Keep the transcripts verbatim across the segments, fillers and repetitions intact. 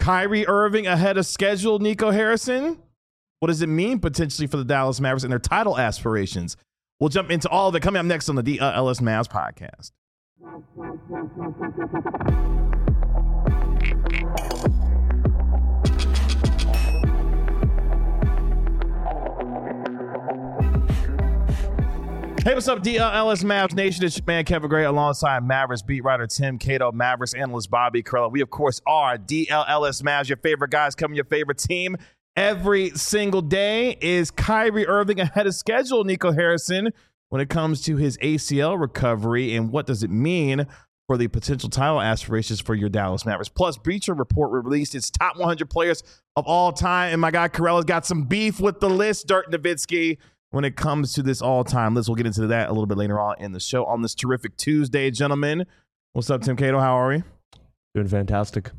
Kyrie Irving ahead of schedule, Nico Harrison? What does it mean potentially for the Dallas Mavericks and their title aspirations? We'll jump into all of it coming up next on the D L S Mavs podcast. Hey, what's up, D L S Mavs Nation? It's your man, Kevin Gray, alongside Mavericks beat writer Tim Cato, Mavericks analyst Bobby Carella. We, of course, are D L S Mavs, your favorite guys, covering your favorite team every single day. Is Kyrie Irving ahead of schedule, Nico Harrison, when it comes to his A C L recovery, and what does it mean for the potential title aspirations for your Dallas Mavericks? Plus, Bleacher Report released its top one hundred players of all time, and my guy Carella's got some beef with the list, Dirk Nowitzki, when it comes to this all-time list. We'll get into that a little bit later on in the show on this terrific Tuesday, gentlemen. What's up, Tim Cato? How are we? Doing fantastic.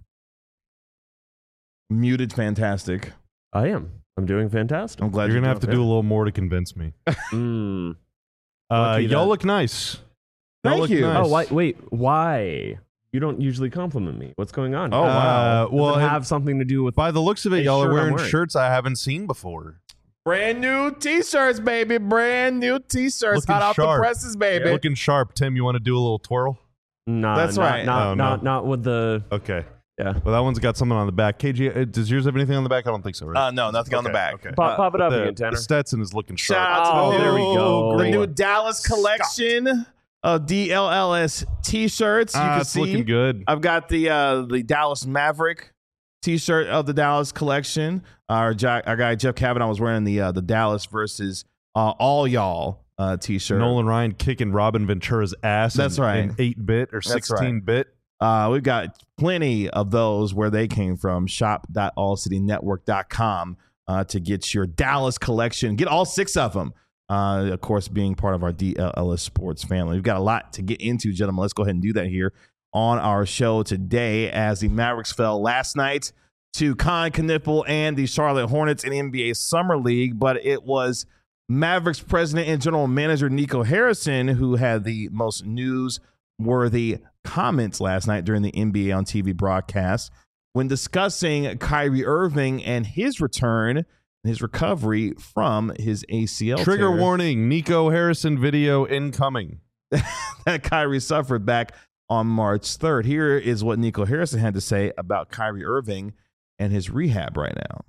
Muted fantastic. I am. I'm doing fantastic. I'm glad you're, you're going to have to okay. do a little more to convince me. mm. uh, y'all that. look nice. Y'all Thank look you. Nice. Oh, why, wait. Why? You don't usually compliment me. What's going on? Oh, wow. Uh, well, Does it it- have something to do with by the looks of it, the y'all are shirt I'm wearing, wearing? shirts I haven't seen before. Brand new T-shirts, baby. Brand new T-shirts. Looking Hot off the sharp. presses, baby. Yeah. Looking sharp. Tim, you want to do a little twirl? Nah, That's not, right. Not, Oh, not, no. not with the. Okay. Yeah. Well, that one's got something on the back. K G, uh, does yours have anything on the back? I don't think so, right? Uh, no, nothing on the Okay, back. okay. Pop, pop it up the, again, Tanner. the Stetson is looking sharp. Shout out Oh, to there we go. the new Dallas collection of D L L S T-shirts. You Ah, can it's see looking good. I've got the uh, the Dallas Maverick T-shirt of the Dallas collection. Our, Jack, our guy Jeff Kavanaugh was wearing the uh, the Dallas versus uh, all y'all uh, T-shirt. Nolan Ryan kicking Robin Ventura's ass. That's in, right. in eight bit or That's sixteen bit. Uh, we've got plenty of those where they came from. shop dot all city network dot com uh, to get your Dallas collection. Get all six of them. Uh, of course, being part of our D L L S Sports family. We've got a lot to get into, gentlemen. Let's go ahead and do that here on our show today as the Mavericks fell last night to Con Kniffel and the Charlotte Hornets in the N B A Summer League. But it was Mavericks president and general manager Nico Harrison who had the most news-worthy comments last night during the N B A on T V broadcast when discussing Kyrie Irving and his return and his recovery from his A C L Trigger tear warning, Nico Harrison video incoming. that Kyrie suffered back on March third. Here is what Nico Harrison had to say about Kyrie Irving and his rehab right now.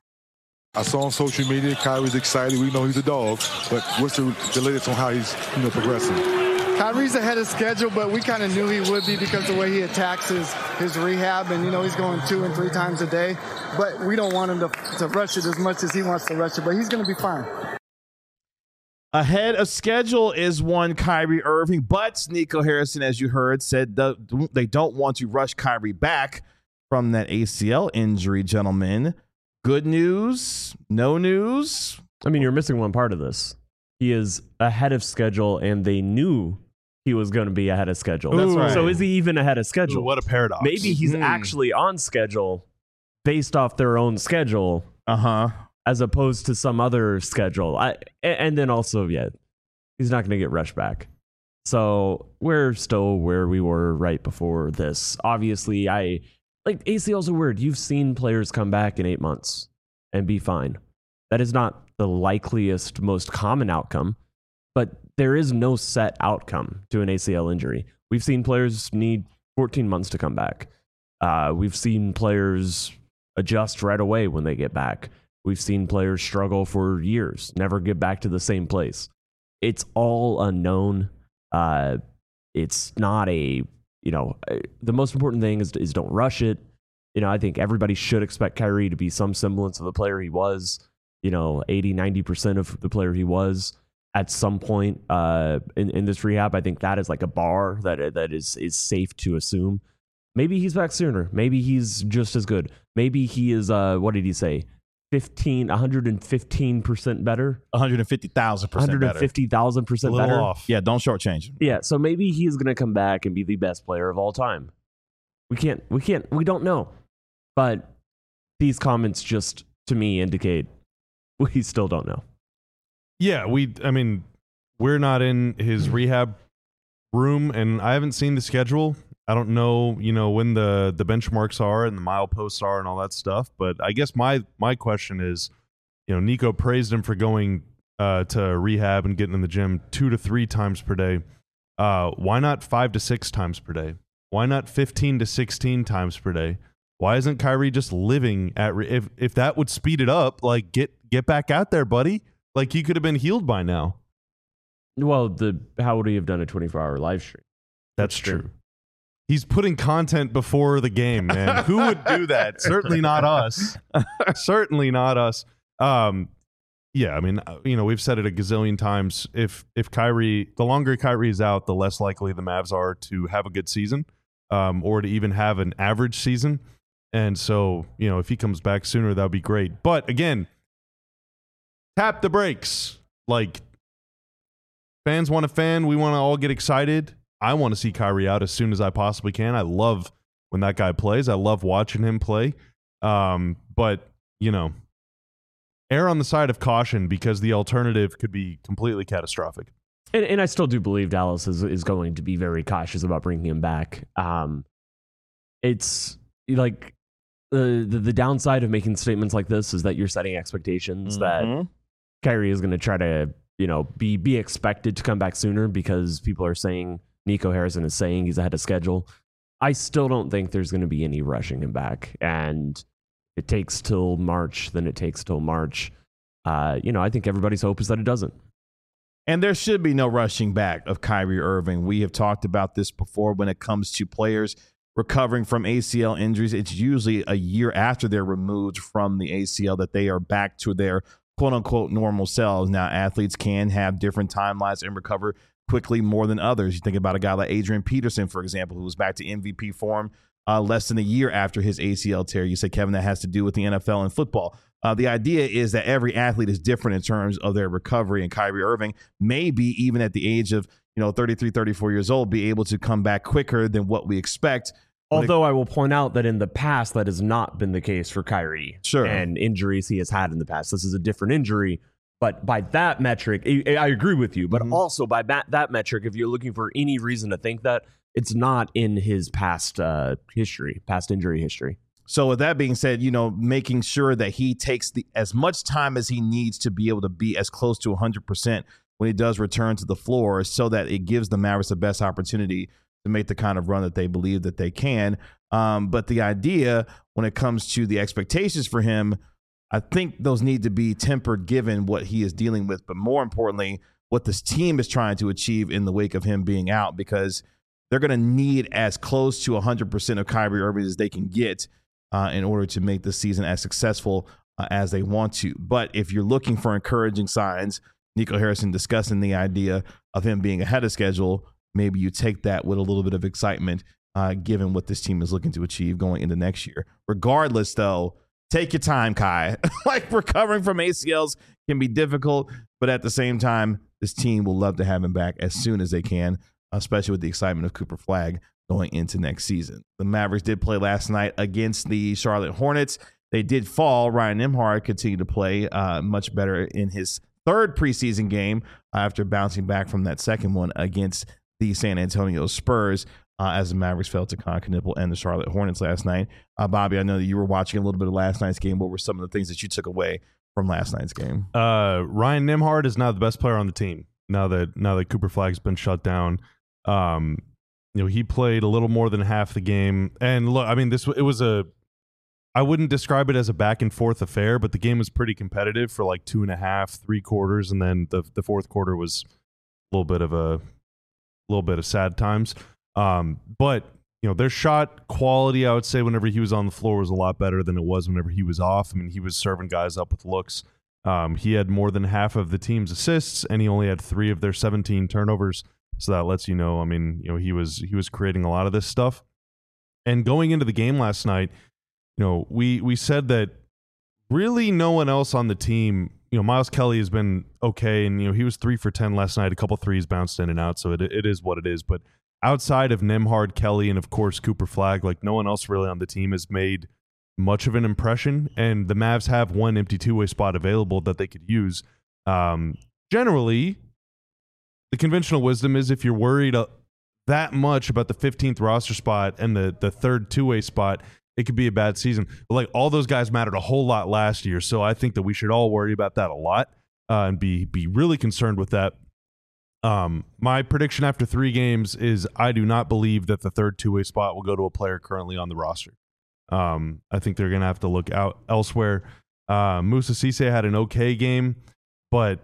I saw on social media Kyrie's excited. We know he's a dog, but what's the, the latest on how he's you know progressing? Kyrie's ahead of schedule, but we kind of knew he would be because the way he attacks his, his rehab, and you know he's going two and three times a day. But we don't want him to, to rush it as much as he wants to rush it, but he's going to be fine. Ahead of schedule is one Kyrie Irving, but Nico Harrison, as you heard, said the, they don't want to rush Kyrie back from that A C L injury, gentlemen. Good news? No news? I mean, you're missing one part of this. He is ahead of schedule, and they knew he was going to be ahead of schedule. That's right. So is he even ahead of schedule? Ooh, what a paradox. Maybe he's Hmm. actually on schedule based off their own schedule Uh-huh. as opposed to some other schedule. I, and then also, yeah, he's not going to get rushed back. So we're still where we were right before this. Obviously, I like A C Ls are weird. You've seen players come back in eight months and be fine. That is not the likeliest, most common outcome, but there is no set outcome to an A C L injury. We've seen players need fourteen months to come back. Uh, we've seen players adjust right away when they get back. We've seen players struggle for years, never get back to the same place. It's all unknown. Uh, it's not a, you know, the most important thing is, is don't rush it. You know, I think everybody should expect Kyrie to be some semblance of the player he was, you know, eighty, ninety percent of the player he was at some point uh, in, in this rehab. I think that is like a bar that that is, is safe to assume. Maybe he's back sooner. Maybe he's just as good. Maybe he is, uh, what did he say? fifteen, one hundred fifteen percent better? one hundred fifty thousand percent better. one hundred fifty thousand a percent little better? off. Yeah, don't shortchange him. Yeah, so maybe he's going to come back and be the best player of all time. We can't, we can't, we don't know. But these comments just, to me, indicate we still don't know. Yeah, we. I mean, we're not in his rehab room, and I haven't seen the schedule. I don't know, you know, when the the benchmarks are and the mileposts are and all that stuff. But I guess my my question is, you know, Nico praised him for going uh, to rehab and getting in the gym two to three times per day. Uh, why not five to six times per day? Why not fifteen to sixteen times per day? Why isn't Kyrie just living at re- if if that would speed it up? Like get get back out there, buddy. Like he could have been healed by now. Well, the how would he have done a twenty-four hour live stream? That's true. He's putting content before the game, man. Who would do that? Certainly not us. Certainly not us. Um, yeah, I mean, you know, we've said it a gazillion times. If if Kyrie, the longer Kyrie is out, the less likely the Mavs are to have a good season, um, or to even have an average season. And so, you know, if he comes back sooner, that would be great. But again, tap the brakes. Like, fans want a fan. We want to all get excited. I want to see Kyrie out as soon as I possibly can. I love when that guy plays. I love watching him play. Um, but, you know, err on the side of caution because the alternative could be completely catastrophic. And, and I still do believe Dallas is, is going to be very cautious about bringing him back. Um, it's like the, the the downside of making statements like this is that you're setting expectations mm-hmm. that Kyrie is going to try to, you know, be be expected to come back sooner because people are saying Nico Harrison is saying he's ahead of schedule. I still don't think there's going to be any rushing him back. And it takes till March, then it takes till March. Uh, you know, I think everybody's hope is that it doesn't. And there should be no rushing back of Kyrie Irving. We have talked about this before when it comes to players recovering from A C L injuries. It's usually a year after they're removed from the A C L that they are back to their quote-unquote normal selves. Now, athletes can have different timelines and recover quickly more than others. You think about a guy like Adrian Peterson, for example, who was back to M V P form uh, less than a year after his A C L tear. You say, Kevin, that has to do with the N F L and football. Uh, the idea is that every athlete is different in terms of their recovery, and Kyrie Irving may be, even at the age of you know thirty-three, thirty-four years old, be able to come back quicker than what we expect. Although it, I will point out that in the past, that has not been the case for Kyrie. Sure. And injuries he has had in the past. This is a different injury. But by that metric, I, I agree with you. But mm-hmm. also by that, that metric, if you're looking for any reason to think that, it's not in his past uh, history, past injury history. So with that being said, you know, making sure that he takes the as much time as he needs to be able to be as close to one hundred percent when he does return to the floor so that it gives the Mavericks the best opportunity to make the kind of run that they believe that they can. Um, but the idea when it comes to the expectations for him, I think those need to be tempered given what he is dealing with, but more importantly, what this team is trying to achieve in the wake of him being out, because they're going to need as close to one hundred percent of Kyrie Irving as they can get uh, in order to make the season as successful uh, as they want to. But if you're looking for encouraging signs, Nico Harrison discussing the idea of him being ahead of schedule, maybe you take that with a little bit of excitement uh, given what this team is looking to achieve going into next year. Regardless, though, take your time, Kai. Like, recovering from A C Ls can be difficult, but at the same time, this team will love to have him back as soon as they can, especially with the excitement of Cooper Flagg going into next season. The Mavericks did play last night against the Charlotte Hornets. They did fall. Ryan Nembhard continued to play uh, much better in his third preseason game uh, after bouncing back from that second one against the San Antonio Spurs. Uh, as the Mavericks fell to Con Knipple and the Charlotte Hornets last night. Uh, Bobby, I know that you were watching a little bit of last night's game. What were some of the things that you took away from last night's game? Uh, Ryan Nembhard is now the best player on the team. Now that now that Cooper Flagg's been shut down, um, you know he played a little more than half the game. And look, I mean, this it was a. I wouldn't describe it as a back and forth affair, but the game was pretty competitive for like two and a half, three quarters, and then the the fourth quarter was a little bit of a, little bit of sad times. Um, but you know, their shot quality, I would say, whenever he was on the floor was a lot better than it was whenever he was off. I mean, he was serving guys up with looks. Um, he had more than half of the team's assists, and he only had three of their seventeen turnovers. So that lets you know, I mean, you know, he was he was creating a lot of this stuff. And going into the game last night, you know, we we said that really no one else on the team. You know, Miles Kelly has been okay, and you know he was three for ten last night. A couple threes bounced in and out, so it it is what it is. But outside of Nembhard, Kelly, and of course Cooper Flagg, like no one else really on the team has made much of an impression. And the Mavs have one empty two-way spot available that they could use. Um, generally, the conventional wisdom is if you're worried uh, that much about the fifteenth roster spot and the the third two-way spot, it could be a bad season. But like all those guys mattered a whole lot last year, so I think that we should all worry about that a lot uh, and be be really concerned with that. Um, my prediction after three games is I do not believe that the third two-way spot will go to a player currently on the roster. Um, I think they're going to have to look out elsewhere. Uh, Musa Cisse had an okay game, but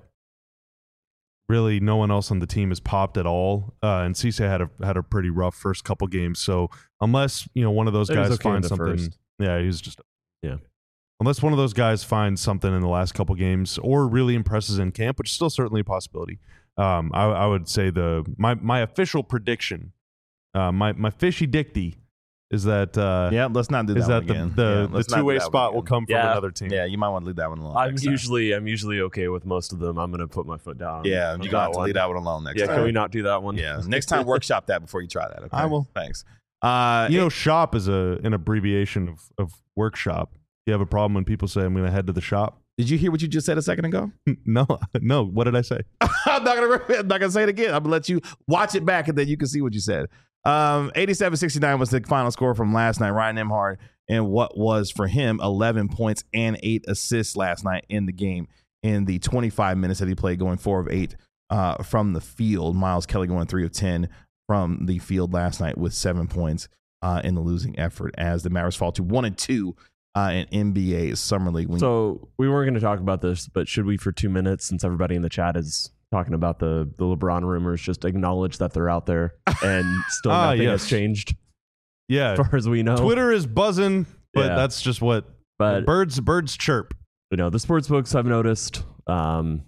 really no one else on the team has popped at all. Uh, and Cisse had a had a pretty rough first couple games. So unless you know one of those It was guys okay in finds the something, first. yeah, he was just Yeah. Unless one of those guys finds something in the last couple games or really impresses in camp, which is still certainly a possibility. Um, I, I would say the my my official prediction, uh, my my fishy dicty, is that uh, Yeah, let's not do that is one that again. the Yeah, the, the let's not two do way that one spot will again. come from Yeah. another team. Yeah, you might want to leave that one alone. I'm next time. usually I'm usually okay with most of them. I'm gonna put my foot down. Yeah, on you that got to one. leave that one alone next Yeah, time. can we not do that one? Yeah, next time workshop that before you try that. Okay? I will. Thanks. Uh, You know, shop is a an abbreviation of of workshop. You have a problem when people say I'm going to head to the shop? did you hear what you just said a second ago? No, no. What did I say? I'm not gonna. I'm not gonna say it again. I'm gonna let you watch it back, and then you can see what you said. Um, eighty-seven sixty-nine was the final score from last night. Ryan Nembhard, and what was for him eleven points and eight assists last night in the game in the twenty-five minutes that he played, going four of eight uh, from the field. Miles Kelly going three of ten from the field last night with seven points uh, in the losing effort as the Mavericks fall to one and two uh, in N B A Summer League. When So we weren't going to talk about this, but should we, for two minutes, since everybody in the chat is talking about the the LeBron rumors, just acknowledge that they're out there and still Ah, nothing yes. has changed Yeah, as far as we know. Twitter is buzzing, but Yeah. that's just what But birds birds chirp. you know, the sports books I've noticed. Um,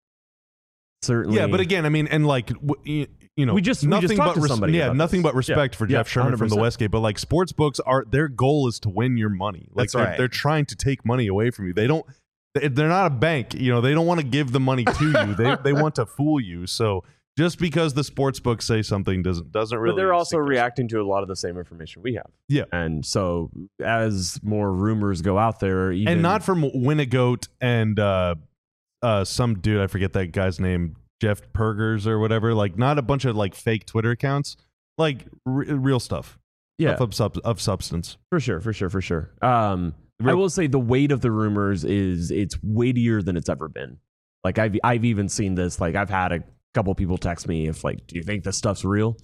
certainly, Yeah, but again, I mean, and like w- you, you know, We just- we nothing just talked but to somebody yeah, about nothing this. but respect Yeah. for Yeah, Jeff Sherman from the one hundred percent. Westgate. But like sports books are their goal is to win your money. Like That's they're, right. they're trying to take money away from you. They don't. they- They're not a bank. You know, they don't want to give the money to you. They they want to fool you. So just because the sports books say something doesn't doesn't really. but they're also suggest- reacting to a lot of the same information we have. Yeah. And so as more rumors go out there, even, and not from Winnegoat and uh, uh, some dude, I forget that guy's name, Jeff Pergers or whatever. Like, not a bunch of like fake Twitter accounts, like r- real stuff. yeah, Stuff of, sub- of substance. for sure, for sure, for sure. Um, I Real- will say the weight of the rumors is it's weightier than it's ever been. Like I've I've even seen this. Like I've had a couple people text me if like, do you think this stuff's real?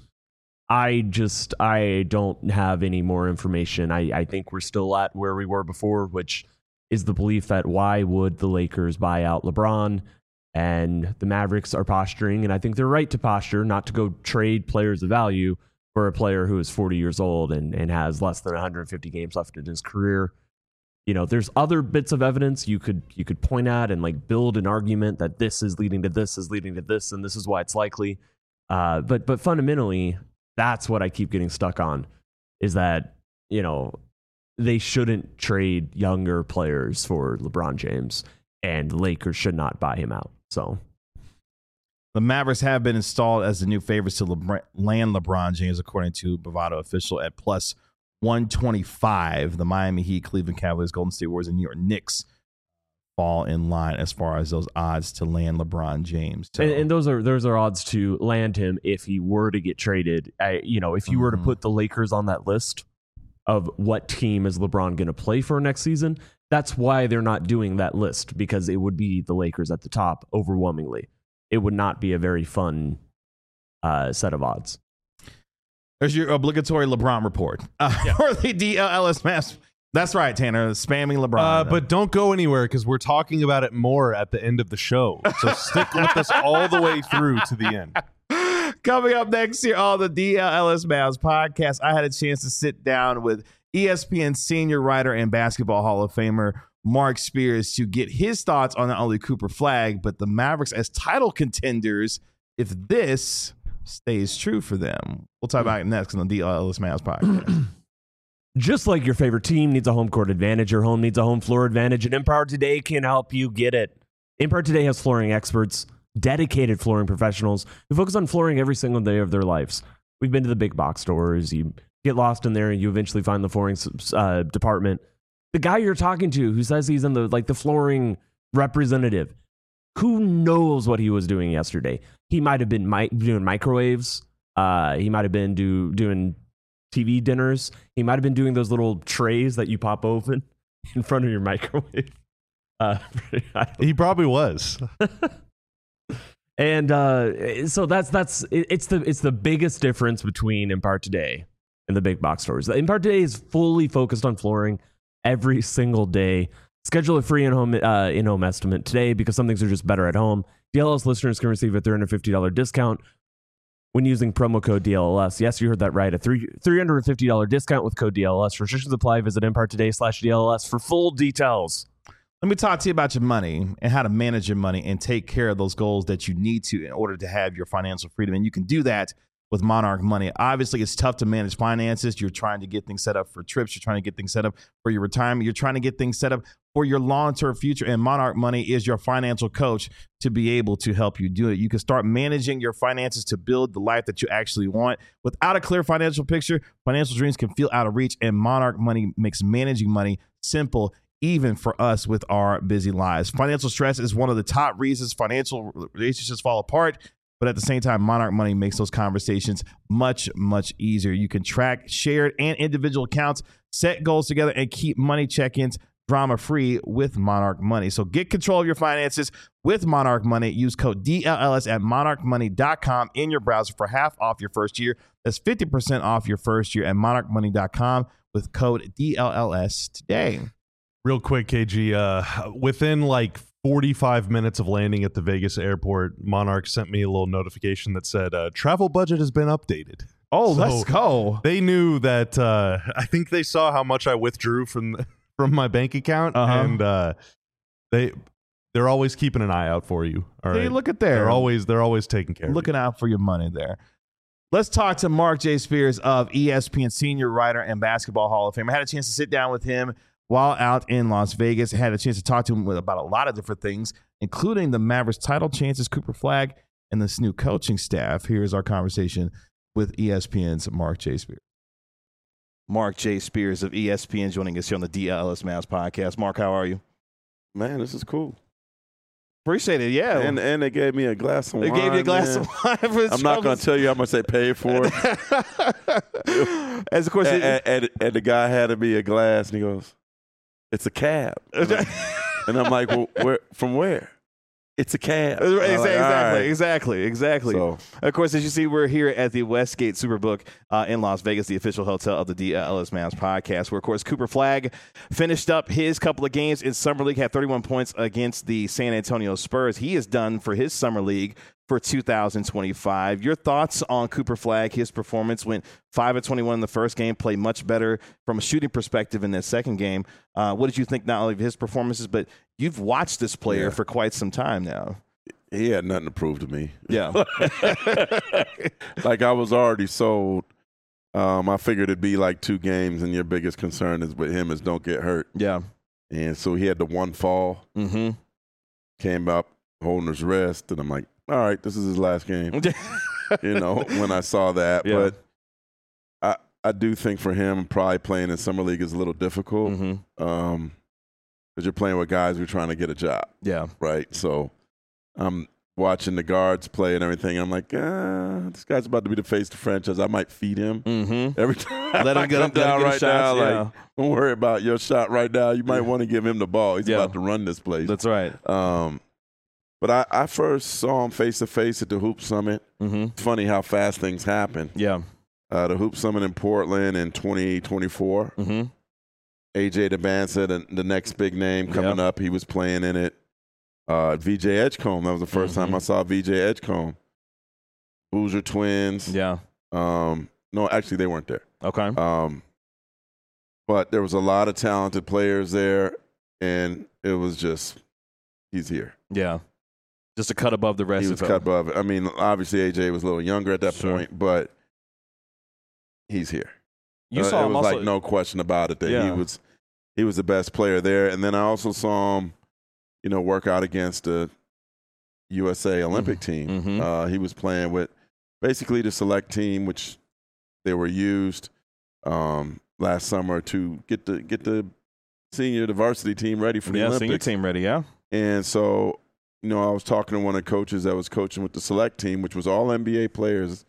I just I don't have any more information. I I think we're still at where we were before, which is the belief that why would the Lakers buy out LeBron? And the Mavericks are posturing, and I think they're right to posture, not to go trade players of value for a player who is forty years old and, and has less than one hundred fifty games left in his career. You know, there's other bits of evidence you could you could point at and like build an argument that this is leading to this is leading to this, and this is why it's likely. Uh, but but fundamentally, that's what I keep getting stuck on, is that, you know, they shouldn't trade younger players for LeBron James, and the Lakers should not buy him out. So the Mavericks have been installed as the new favorites to LeBron, land LeBron James, according to Bovado Official, at plus one twenty-five. The Miami Heat, Cleveland Cavaliers, Golden State Warriors, and New York Knicks fall in line as far as those odds to land LeBron James. So, and, and those are those are odds to land him if he were to get traded. I, you know, if you were to Mhm. put the Lakers on that list of what team is LeBron going to play for next season, that's why they're not doing that list, because it would be the Lakers at the top overwhelmingly. It would not be a very fun uh, set of odds. there's your obligatory LeBron report uh, for the D L L S Mass. That's right, Tanner, spamming LeBron. Uh, but don't go anywhere because we're talking about it more at the end of the show. So stick with us all the way through to the end. Coming up next year on the D L L S Mavs podcast, I had a chance to sit down with E S P N senior writer and basketball Hall of Famer Mark Spears to get his thoughts on not only Cooper Flagg, but the Mavericks as title contenders if this stays true for them. We'll talk about it next on the D L L S Mavs podcast. Just like your favorite team needs a home court advantage, your home needs a home floor advantage, and Empower Today can help you get it. Empower Today has flooring experts, dedicated flooring professionals who focus on flooring every single day of their lives. We've been to the big box stores. You get lost in there, and you eventually find the flooring uh, department. The guy you're talking to who says he's in the like the flooring representative, who knows what he was doing yesterday? He might have been mi- doing microwaves. Uh, he might have been do, doing T V dinners. He might have been doing those little trays that you pop open in front of your microwave. Uh, he probably was. And uh, so that's that's it, it's the it's the biggest difference between Empire Today and the big box stores. Empire Today is fully focused on flooring every single day. Schedule a free in-home uh, in-home estimate today because some things are just better at home. D L S listeners can receive a three hundred fifty dollars discount when using promo code D L S. Yes, you heard that right. A three three hundred fifty dollars discount with code D L S. Restrictions apply. Visit Empire Today slash D L S for full details. Let me talk to you about your money and how to manage your money and take care of those goals that you need to in order to have your financial freedom. And you can do that with Monarch Money. Obviously, it's tough to manage finances. You're trying to get things set up for trips. You're trying to get things set up for your retirement. You're trying to get things set up for your long-term future. And Monarch Money is your financial coach to be able to help you do it. You can start managing your finances to build the life that you actually want. Without a clear financial picture, financial dreams can feel out of reach. And Monarch Money makes managing money simple, even for us with our busy lives. Financial stress is one of the top reasons financial relationships fall apart. But at the same time, Monarch Money makes those conversations much, much easier. You can track shared and individual accounts, set goals together, and keep money check-ins drama-free with Monarch Money. So get control of your finances with Monarch Money. Use code D L L S at monarch money dot com in your browser for half off your first year. That's fifty percent off your first year at monarch money dot com with code D L L S today. Real quick, K G, uh, within like forty-five minutes of landing at the Vegas airport, Monarch sent me a little notification that said uh, travel budget has been updated. Oh, so let's go. They knew that. Uh, I think they saw how much I withdrew from from my bank account, uh-huh. and uh, they they're always keeping an eye out for you. All right, hey, look at there. They're always they're always taking care. Looking of you. out for your money there. Let's talk to Mark J. Spears of E S P N, senior writer and Basketball Hall of Fame. I had a chance to sit down with him while out in Las Vegas. I had a chance to talk to him about a lot of different things, including the Mavericks title chances, Cooper Flagg, and this new coaching staff. Here's our conversation with E S P N's Mark J. Spears. Mark J. Spears of E S P N joining us here on the D L S Mavs podcast. Mark, how are you? Man, this is cool. Appreciate it, yeah. And and they gave me a glass of they wine. gave you a glass man. of wine. For I'm not going to tell you how much they paid for it. As of course, and, it, and, and the guy handed me a glass, and he goes, "It's a cab." And I'm, and I'm like, "Well, where? From where?" It's a cab. Exactly, like, exactly, right. exactly, exactly. So, of course, as you see, we're here at the Westgate Superbook uh, in Las Vegas, the official hotel of the D L S Mavs podcast, where, of course, Cooper Flagg finished up his couple of games in Summer League, had thirty-one points against the San Antonio Spurs. He is done for his Summer League for two thousand twenty-five. Your thoughts on Cooper Flagg? His performance went five of twenty-one in the first game, played much better from a shooting perspective in that second game. Uh, what did you think not only of his performances, but you've watched this player yeah. for quite some time now? He had nothing to prove to me. Yeah. Like, I was already sold. Um, I figured it'd be like two games, and your biggest concern is with him is don't get hurt. Yeah. And so he had the one fall, Mm-hmm. came up holding his wrist, and I'm like, all right, this is his last game. You know, when I saw that. Yeah. But I I do think for him, probably playing in Summer League is a little difficult because Mm-hmm. um, you're playing with guys who are trying to get a job, Yeah. right? So I'm watching the guards play and everything. I'm like, ah, this guy's about to be the face of the franchise. I might feed him Mm-hmm. every time. Let him I get, come let him down get right his shots. now. Yeah. Like, don't worry about your shot right now. You might want to give him the ball. He's Yeah. about to run this place. That's right. Um, but I, I first saw him face to face at the Hoop Summit. Mm-hmm. It's funny how fast things happen. Yeah. Uh, the Hoop Summit in Portland in twenty twenty-four. Mm-hmm. A J DeBanza, the, the next big name coming Yep. up, he was playing in it. Uh, V J Edgecombe, that was the 1st Mhm. time I saw V J Edgecombe. Boozer Twins. Yeah. Um, no, actually, they weren't there. Okay. Um, but there was a lot of talented players there, and it was just, he's here. Yeah. Just a cut above the rest He of was it. cut above it. I mean, obviously, A J was a little younger at that Sure. point, but he's here. You Uh, saw it him was also. like no question about it that he Yeah. was he was the best player there. And then I also saw him, you know, work out against the U S A Olympic team. Mhm. Uh, he was playing with basically the select team, which they were used um, last summer to get the get the senior the varsity team ready for the yeah, Olympics. senior team ready, yeah. And so, you know, I was talking to one of the coaches that was coaching with the select team, which was all N B A players.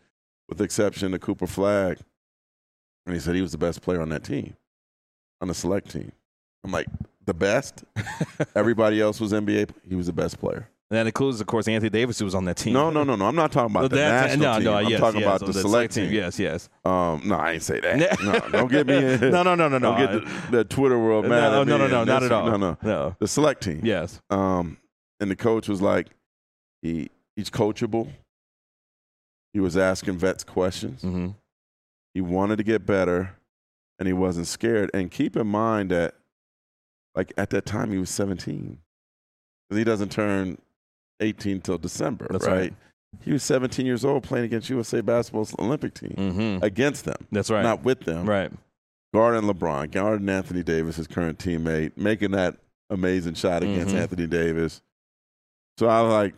with the exception of Cooper Flagg. And he said he was the best player on that team, on the select team. I'm like, the best? Everybody else was N B A. He was the best player. And that includes, of course, Anthony Davis, who was on that team. No, no, no, no. I'm not talking about the That- national no, team. no, I'm yes, talking yes, about on the, the select select team. team. Yes, yes. Um, no, I ain't say that. no, don't get me in. No, no, no, no, no. Don't get the, the Twitter world mad No, at me. no, no, no, and not this- at all. No, no. No. The select team. Yes. Um, and the coach was like, he he's coachable. He was asking vets questions. Mm-hmm. He wanted to get better, and he wasn't scared. And keep in mind that, like, at that time, he was seventeen. Because he doesn't turn eighteen till December, That's right? right. He was seventeen years old playing against U S A Basketball's Olympic team. Mm-hmm. Against them. That's right. Not with them. Right. Guarding LeBron, guarding Anthony Davis, his current teammate, making that amazing shot against Mhm. Anthony Davis. So I was like,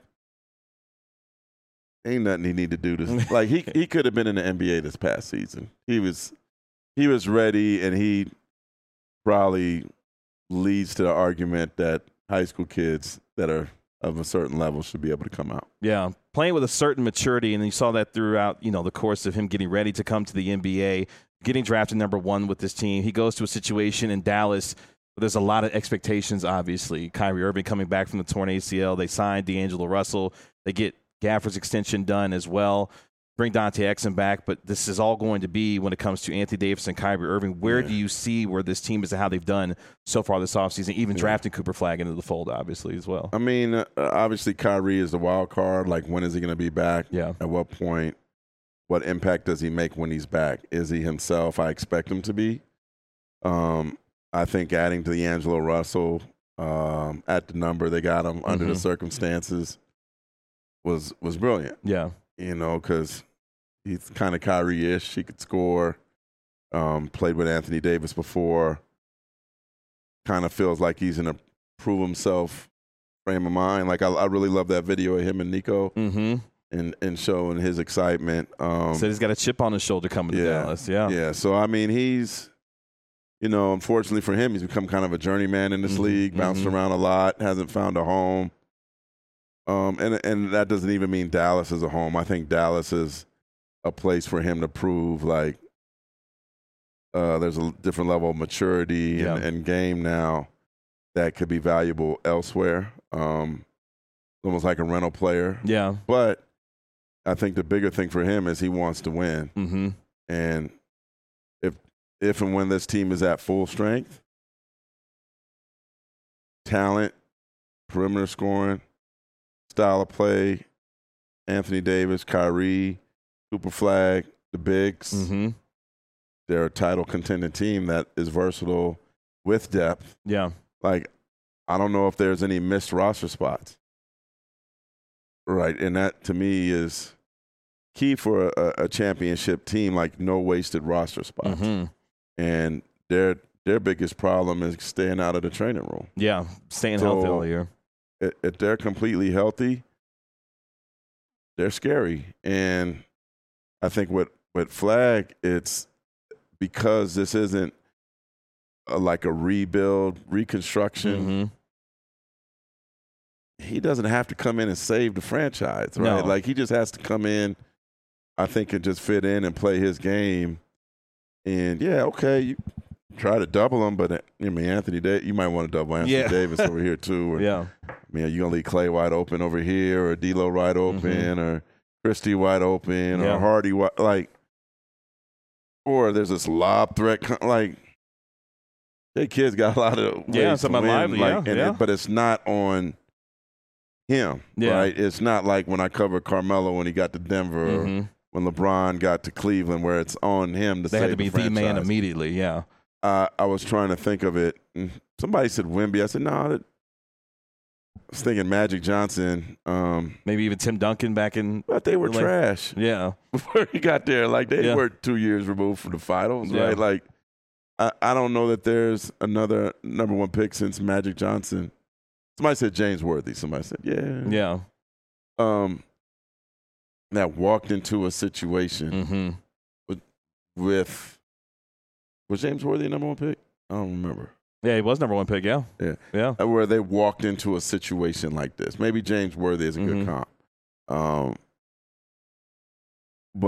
ain't nothing he need to do to like he he could have been in the N B A this past season. He was he was ready, and he probably leads to the argument that high school kids that are of a certain level should be able to come out. Yeah, playing with a certain maturity, and you saw that throughout, you know, the course of him getting ready to come to the N B A, getting drafted number one with this team. He goes to a situation in Dallas where there's a lot of expectations, obviously. Kyrie Irving coming back from the torn A C L. They signed D'Angelo Russell. They get Gafford's extension done as well. Bring Dante Exum back, but this is all going to be when it comes to Anthony Davis and Kyrie Irving. Where Yeah. do you see where this team is and how they've done so far this offseason, even Yeah. drafting Cooper Flagg into the fold, obviously, as well? I mean, uh, obviously Kyrie is the wild card. Like, when is he going to be back? Yeah. At what point? What impact does he make when he's back? Is he himself? I expect him to be. Um, I think adding to D'Angelo Russell um, at the number they got him under the Mhm. circumstances was was brilliant. Yeah. You know, because he's kind of Kyrie-ish. He could score. Um, played with Anthony Davis before. Kind of feels like he's in a prove himself frame of mind. Like, I, I really love that video of him and Nico Mm-hmm. and, and showing his excitement. Um, Said he's got a chip on his shoulder coming to yeah. Dallas. Yeah. yeah, so, I mean, he's, you know, unfortunately for him, he's become kind of a journeyman in this Mhm, league, bounced mhm. around a lot, hasn't found a home. Um, and and that doesn't even mean Dallas is a home. I think Dallas is a place for him to prove, like, uh, there's a different level of maturity and, Yeah. and game now that could be valuable elsewhere. Um, almost like a rental player. Yeah. But I think the bigger thing for him is he wants to win. Mm-hmm. And if if and when this team is at full strength, talent, perimeter scoring, style of play, Anthony Davis, Kyrie, Cooper Flagg, the bigs, Mm-hmm. they're a title contending team that is versatile with depth. Yeah. Like, I don't know if there's any missed roster spots. Right. And that, to me, is key for a, a championship team, like no wasted roster spots. Mm-hmm. And their their biggest problem is staying out of the training room. Yeah. Staying So- healthy all year. If, if they're completely healthy, they're scary. And I think with, with Flagg, it's because this isn't a, like a rebuild, reconstruction. Mm-hmm. He doesn't have to come in and save the franchise, right? No. Like, he just has to come in, I think, and just fit in and play his game. And, yeah, okay, you try to double him, but, uh, I mean, Anthony Davis, you might want to double Anthony Yeah. Davis over here, too. Or, Yeah. I mean, are you going to leave Clay wide open over here, or D'Lo wide open, or Christie wide open, Mm-hmm. Yeah. or Hardy wide, like, or there's this lob threat, co- like, hey, kid's got a lot of ways Yeah, to something win, lively, like, yeah, and yeah. It, but it's not on him, Yeah. right? It's not like when I covered Carmelo when he got to Denver, or Mm-hmm. when LeBron got to Cleveland, where it's on him to They save had to be the the man franchise. immediately. Yeah. Uh, I was trying to think of it. and Somebody said Wemby. I said, no, that, I was thinking Magic Johnson. Um, Maybe even Tim Duncan back in. but they were Like- trash Yeah. before he got there. Like, they Yeah. were two years removed from the finals, Yeah. right? Like, I, I don't know that there's another number one pick since Magic Johnson. Somebody said James Worthy. Somebody said, yeah. Yeah. Um, that walked into a situation Mm-hmm. with, was James Worthy a number one pick? I don't remember. Yeah, he was number one pick. Yeah. Yeah. Yeah. Uh, where they walked into a situation like this. Maybe James Worthy is a Mhm. good comp. Um, but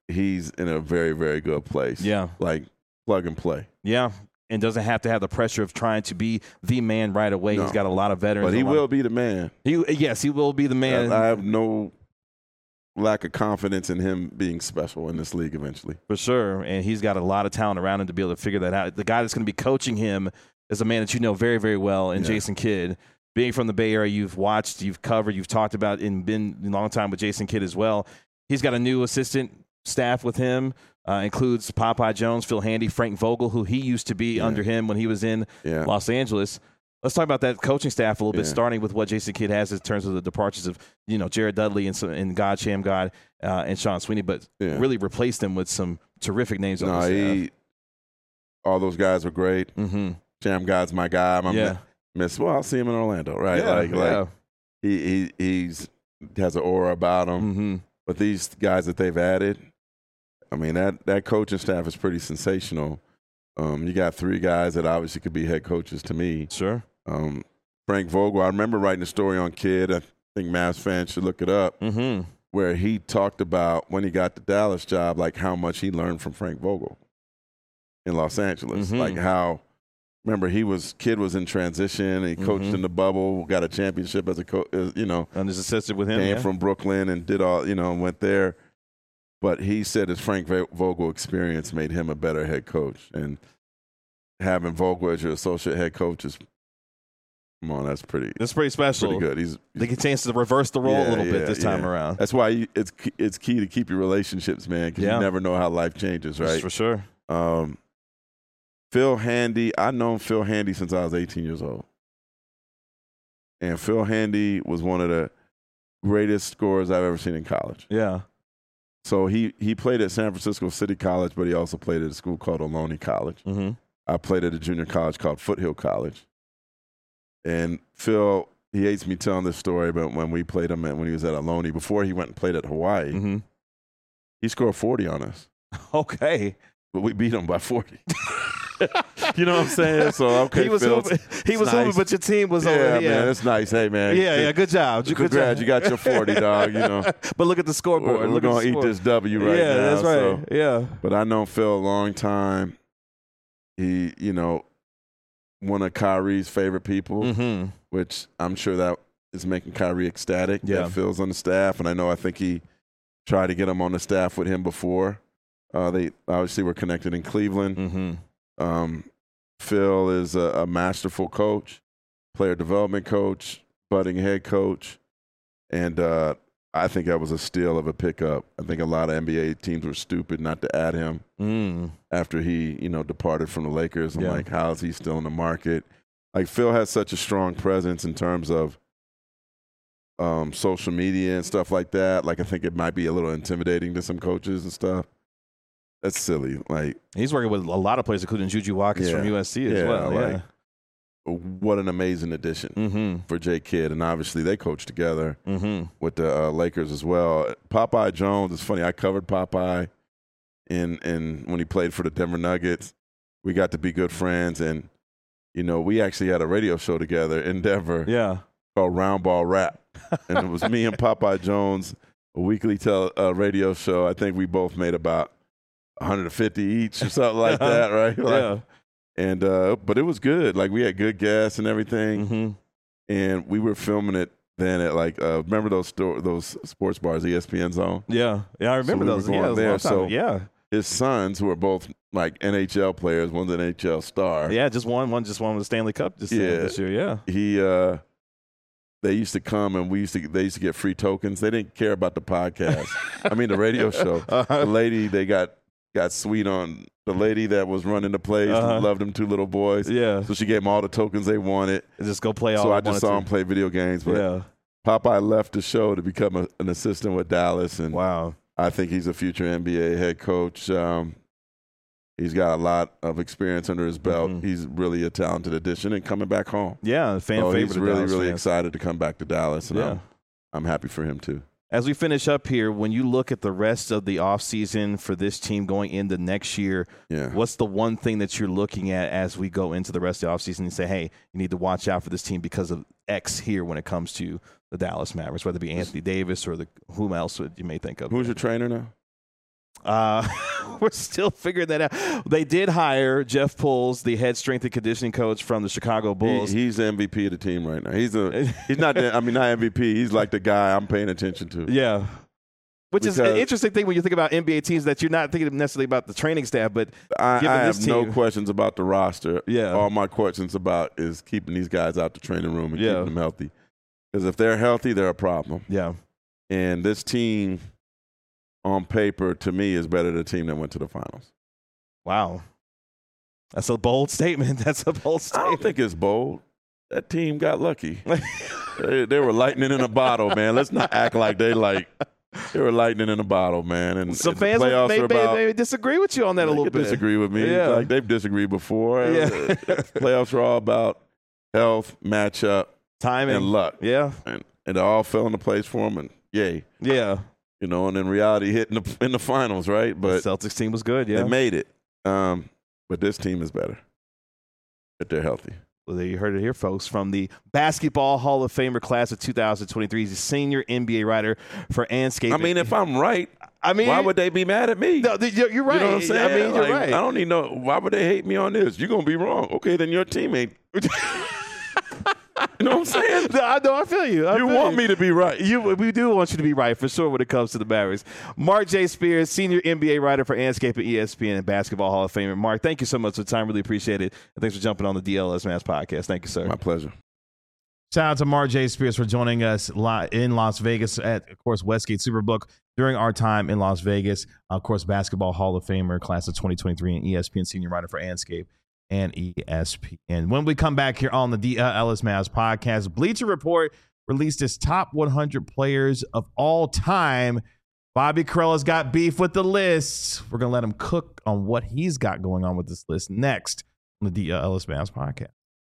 he's in a very, very good place. Yeah. Like plug and play. Yeah. And doesn't have to have the pressure of trying to be the man right away. No. He's got a lot of veterans. But he a lot will of- be the man. He, yes, he will be the man. I, I have no lack of confidence in him being special in this league eventually. For sure. And he's got a lot of talent around him to be able to figure that out. The guy that's going to be coaching him is a man that you know very, very well in Yeah. Jason Kidd. Being from the Bay Area, you've watched, you've covered, you've talked about, and been a long time with Jason Kidd as well. He's got a new assistant staff with him. Uh, includes Popeye Jones, Phil Handy, Frank Vogel, who he used to be Yeah. under him when he was in Yeah. Los Angeles. Let's talk about that coaching staff a little bit, Yeah. starting with what Jason Kidd has in terms of the departures of, you know, Jared Dudley and, some, and God Sham God uh, and Sean Sweeney, but Yeah. really replaced them with some terrific names on No, the staff. he, all those guys were great. Mm-hmm. Jam God's my guy. I'm Yeah. miss. Well, I'll see him in Orlando, right? Yeah, like, yeah. like he, he he's has an aura about him. Mm-hmm. But these guys that they've added, I mean, that, that coaching staff is pretty sensational. Um, you got three guys that obviously could be head coaches to me. Sure. Um, Frank Vogel, I remember writing a story on Kidd. I think Mavs fans should look it up, Mm-hmm. where he talked about when he got the Dallas job, like how much he learned from Frank Vogel in Los Angeles. Mhm. Like how, remember, he was, Kidd was in transition. He coached Mhm. in the bubble, got a championship as a coach, you know, And his assistant with him. came yeah. from Brooklyn and did all, you know, and went there. But he said his Frank Vo- Vogel experience made him a better head coach. And having Vogel as your associate head coach is, come on, that's pretty, That's pretty special. pretty good. He's, They get a chance to reverse the role a Yeah, little bit yeah, this time yeah. around. That's why you, it's it's key to keep your relationships, man, because Yeah. you never know how life changes, right? For sure. Um, Phil Handy, I've known Phil Handy since I was eighteen years old. And Phil Handy was one of the greatest scorers I've ever seen in college. Yeah. So he, he played at San Francisco City College, but he also played at a school called Ohlone College. Mm-hmm. I played at a junior college called Foothill College. And Phil, he hates me telling this story, but when we played him at, when he was at Ohlone, before he went and played at Hawaii, Mm-hmm. he scored forty on us. Okay. But we beat him by forty. You know what I'm saying? So, okay, he was Phil, hooping, he it's was hooping, nice. but your team was yeah, over. man, it's nice. Hey, man. Yeah, yeah, good job. Good Congrats, job. you got your forty, dog, you know. But look at the scoreboard. We're, we're look at going the to eat score. this W right yeah, now. that's right. so- Yeah. But I know Phil a long time. He, you know, one of Kyrie's favorite people, Mm-hmm. which I'm sure that is making Kyrie ecstatic. Yeah. That Phil's on the staff, and I know I think he tried to get him on the staff with him before. Uh, they obviously were connected in Cleveland. Mm-hmm. Um, Phil is a, a masterful coach, player development coach, budding head coach, and uh, I think that was a steal of a pickup. I think a lot of N B A teams were stupid not to add him Mm. after he, you know, departed from the Lakers. I'm Yeah. like, how is he still in the market? Like, Phil has such a strong presence in terms of um, social media and stuff like that. Like, I think it might be a little intimidating to some coaches and stuff. That's silly. Like, He's working with a lot of players, including Juju Watkins Yeah. from U S C as Yeah, well. like- yeah. what an amazing addition Mm-hmm. for Jay Kidd. And obviously, they coach together Mm-hmm. with the uh, Lakers as well. Popeye Jones, it's funny. I covered Popeye in in when he played for the Denver Nuggets. We got to be good friends, and you know, we actually had a radio show together in Denver Yeah. called Round Ball Rap, and it was me and Popeye Jones, a weekly tel- uh, radio show. I think we both made about one hundred fifty each or something like that, right? Like, Yeah. And uh, but it was good. Like, we had good guests and everything, Mm-hmm. and we were filming it then at like uh, remember those store those sports bars, E S P N Zone. Yeah. Yeah. I remember we were those. going Yeah, it was a there, long time so- ago. yeah. His sons, who are both like N H L players, one's an N H L star. Yeah. Just one. One. Just won with the Stanley Cup this, uh, Yeah. this year. Yeah. He, uh, they used to come and we used to. They used to get free tokens. They didn't care about the podcast. I mean, the radio show. Uh-huh. The lady they got got sweet on. The lady that was running the plays Uh-huh. loved them two little boys. Yeah. So she gave them all the tokens they wanted. Just go play all. So I wanted just saw to. him play video games. But Yeah. Popeye left the show to become a, an assistant with Dallas, and Wow. I think he's a future N B A head coach. Um, he's got a lot of experience under his belt. Mhm. He's really a talented addition and coming back home. Yeah. Fan So favorite. he's of really, Dallas really fans. excited to come back to Dallas, and Yeah. I'm, I'm happy for him too. As we finish up here, when you look at the rest of the offseason for this team going into next year, Yeah. what's the one thing that you're looking at as we go into the rest of the offseason and say, hey, you need to watch out for this team because of X here when it comes to the Dallas Mavericks, whether it be Anthony Davis or the whom else you may think of? Who's your trainer now? Uh, we're still figuring that out. They did hire Jeff Pulls, the head strength and conditioning coach from the Chicago Bulls. He, he's the M V P of the team right now. He's a he's not. The, I mean, not M V P. He's like the guy I'm paying attention to. Yeah. Which Because is an interesting thing when you think about N B A teams that you're not thinking necessarily about the training staff, but I, given I this have team, no questions about the roster. Yeah. All my questions about is keeping these guys out the training room and Yeah. keeping them healthy. Because if they're healthy, they're a problem. Yeah. And this team, on paper, to me, is better than the team that went to the finals. Wow. That's a bold statement. That's a bold I statement. don't think it's bold. That team got lucky. they, they were lightning in a bottle, man. Let's not act like they like they were lightning in a bottle, man. And Some and the fans playoffs may, are may, about, may disagree with you on that they a little could bit. disagree with me. Yeah. Like they've disagreed before. Yeah. Playoffs are all about health, matchup, Timing. and luck. Yeah. And, and it all fell into place for them, and yay. Yeah. You know, and then reality hit in the, in the finals, right? But the Celtics team was good, yeah. they made it. Um, but this team is better if they're healthy. Well, you heard it here, folks, from the Basketball Hall of Famer class of two thousand twenty-three. He's a senior N B A writer for Anscape. I mean, if I'm right, I mean, why would they be mad at me? No, you're, you're right. You know what I'm saying? I mean, you're Like, right. I don't need no. Why would they hate me on this? You're gonna be wrong. Okay, then your teammate. You know what I'm saying? No, I know. I feel you. I You feel want you. me to be right. You, we do want you to be right for sure when it comes to the Mavericks. Mark J. Spears, senior N B A writer for Anscape and E S P N and Basketball Hall of Famer. Mark, thank you so much for the time. Really appreciate it. And thanks for jumping on the D L S Mass podcast. Thank you, sir. My pleasure. Shout out to Mark J. Spears for joining us li- in Las Vegas at, of course, Westgate Superbook during our time in Las Vegas. Of course, Basketball Hall of Famer, class of twenty twenty-three, and E S P N senior writer for Anscape and E S P N. When we come back here on the D L S Mavs podcast, Bleacher Report released its top one hundred players of all time. Bobby Carella's got beef with the list. We're going to let him cook on what he's got going on with this list next on the D L S Mavs podcast.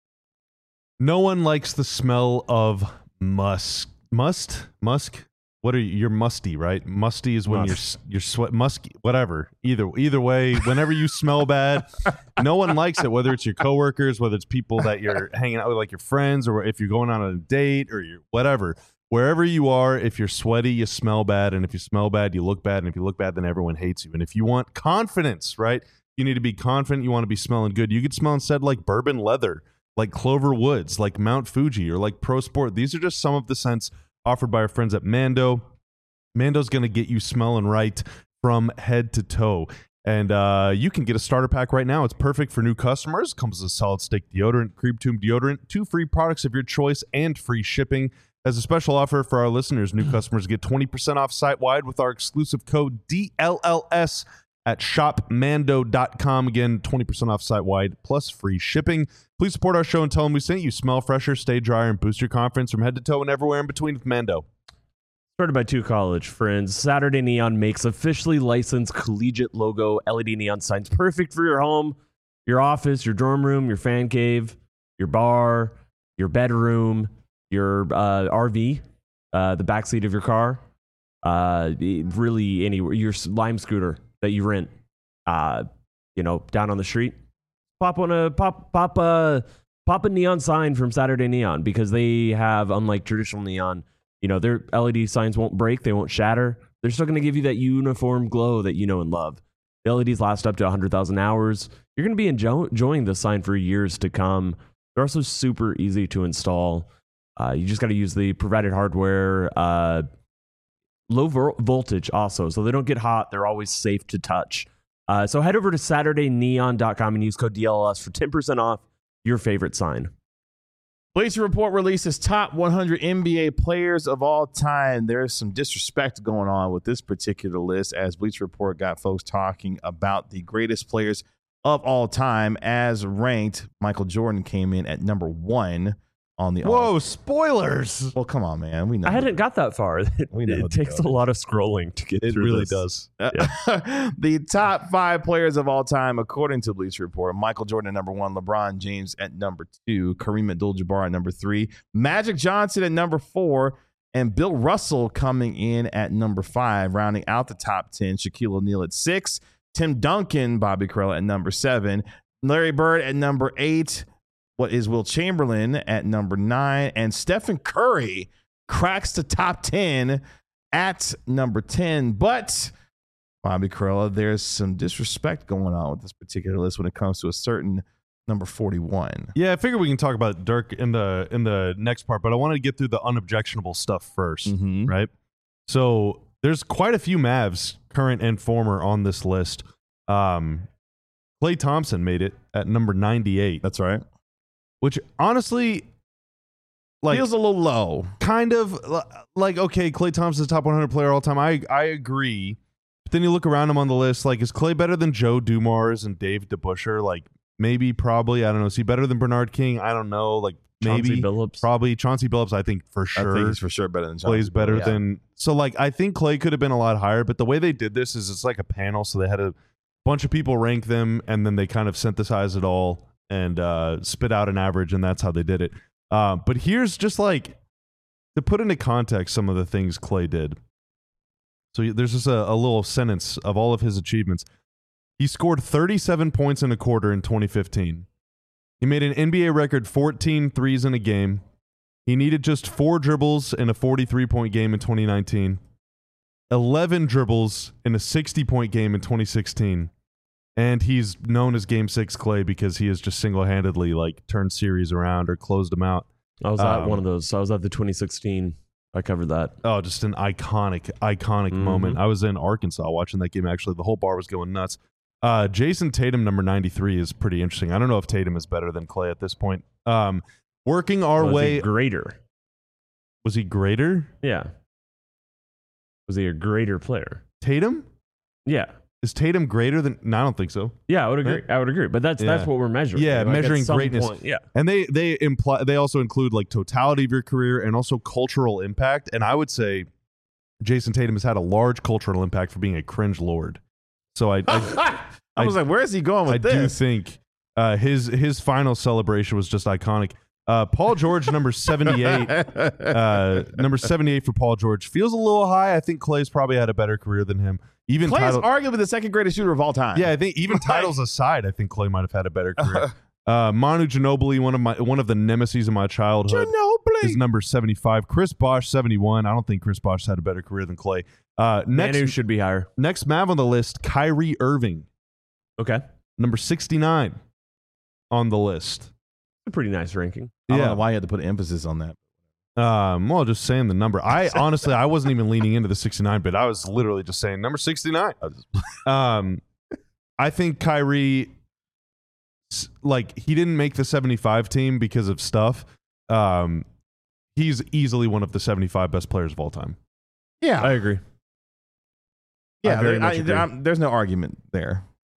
No one likes the smell of musk. Must? Musk? What are you? You're musty, right? Musty is when Musk. you're you're sweat musky. Whatever. Either either way, whenever you smell bad, no one likes it. Whether it's your coworkers, whether it's people that you're hanging out with, like your friends, or if you're going on a date, or you're whatever. Wherever you are, if you're sweaty, you smell bad, and if you smell bad, you look bad, and if you look bad, then everyone hates you. And if you want confidence, right? You need to be confident. You want to be smelling good. You could smell instead like bourbon leather, like Clover Woods, like Mount Fuji, or like Pro Sport. These are just some of the scents offered by our friends at Mando. Mando's going to get you smelling right from head to toe. And uh, you can get a starter pack right now. It's perfect for new customers. Comes with a solid stick deodorant, Cream Tube deodorant, two free products of your choice, and free shipping. As a special offer for our listeners, new customers get twenty percent off site-wide with our exclusive code D L L S at shop mando dot com. Again, twenty percent off site-wide plus free shipping. Please support our show and tell them we sent you. Smell fresher, stay drier, and boost your confidence from head to toe and everywhere in between with Mando. Started by two college friends, Saturday Neon makes officially licensed collegiate logo L E D neon signs perfect for your home, your office, your dorm room, your fan cave, your bar, your bedroom, your uh, R V, uh, the backseat of your car, uh, really anywhere, your Lime scooter that you rent, uh, you know, down on the street. Pop on a pop pop a pop a neon sign from Saturday Neon, because they have, unlike traditional neon, you know, their L E D signs won't break, they won't shatter. They're still going to give you that uniform glow that you know and love. The L E Ds last up to one hundred thousand hours. You're going to be enjoy- enjoying the sign for years to come. They're also super easy to install. Uh, you just got to use the provided hardware. Uh, low vo- voltage also, so they don't get hot. They're always safe to touch. Uh, so head over to saturday neon dot com and use code D L L S for ten percent off your favorite sign. Bleacher Report releases top one hundred N B A players of all time. There's some disrespect going on with this particular list, as Bleacher Report got folks talking about the greatest players of all time as ranked. Michael Jordan came in at number one on the. Whoa, all- spoilers. well, come on, man. We know I hadn't got that far. It, We know it the takes deal. a lot of scrolling to get It through really this. does. the top five players of all time, according to Bleacher Report: Michael Jordan at number one, LeBron James at number two, Kareem Abdul-Jabbar at number three, Magic Johnson at number four, and Bill Russell coming in at number five, rounding out the top ten. Shaquille O'Neal at six, Tim Duncan, Bobby Carell at number seven, Larry Bird at number eight. What is Will Chamberlain at number nine, and Stephen Curry cracks the top ten at number ten. But Bobby Karalla, there's some disrespect going on with this particular list when it comes to a certain number forty-one. Yeah, I figure we can talk about Dirk in the in the next part, but I wanted to get through the unobjectionable stuff first, Mhm. right? So there's quite a few Mavs, current and former, on this list. Um, Klay Thompson made it at number ninety-eight, That's right. which honestly, like, Feels a little low. kind of li- like, okay, Klay Thompson's top one hundred player all time. I I agree. But then you look around him on the list, like, is Klay better than Joe Dumars and Dave DeBusschere? Like, maybe, probably. I don't know. Is he better than Bernard King? I don't know. Like, maybe, Chauncey Billups. probably. Chauncey Billups, I think for sure. I think he's for sure better than Chauncey Clay's better Billups. than. So, like, I think Klay could have been a lot higher, but the way they did this is it's like a panel. So they had a bunch of people rank them, and then they kind of synthesize it all and uh, spit out an average, and that's how they did it. Uh, but here's just like, to put into context some of the things Klay did. So there's just a, a little sentence of all of his achievements. He scored thirty-seven points in a quarter in twenty fifteen. He made an N B A record fourteen threes in a game. He needed just four dribbles in a forty-three point game in twenty nineteen, eleven dribbles in a sixty point game in twenty sixteen. And he's known as Game Six Klay because he has just single-handedly like turned series around or closed them out. I was at Um, one of those. I was at the twenty sixteen. I covered that. Oh, just an iconic, iconic Mhm. moment. I was in Arkansas watching that game. Actually, the whole bar was going nuts. Uh, Jason Tatum, number ninety-three, is pretty interesting. I don't know if Tatum is better than Klay at this point. Um, working our Was he way, greater. was he greater? Yeah. Was he a greater player? Tatum? Yeah. Is Tatum greater than? No, I don't think so. Yeah, I would agree. I would agree. But that's that's Yeah. what we're measuring. Yeah, Like, at measuring some greatness. point- yeah. And they they imply they also include like totality of your career and also cultural impact. And I would say Jason Tatum has had a large cultural impact for being a cringe lord. So I I, I was like, where is he going with I do this? think uh, his his final celebration was just iconic. Uh, Paul George, number seventy-eight. Uh, number seventy-eight for Paul George feels a little high. I think Clay's probably had a better career than him. Even Clay is title, arguably the second greatest shooter of all time. yeah, I think even titles aside, I think Clay might have had a better career. Uh, Manu Ginobili, one of my one of the nemesis of my childhood, Ginobili. is number seventy-five. Chris Bosh, seventy-one. I don't think Chris Bosh had a better career than Clay. Uh, next, Manu should be higher. next Mav on the list, Kyrie Irving, Okay. number sixty-nine on the list. A pretty nice ranking. I don't know why you had to put emphasis on that. Um, well, just saying the number. I honestly, I wasn't even leaning into the sixty-nine bit. I was literally just saying number sixty-nine. Um, I think Kyrie, s- like, he didn't make the seventy-five team because of stuff. Um, he's easily one of the seventy-five best players of all time. Yeah, I agree. yeah. I very there- much I- agree. I'm- there's no argument there.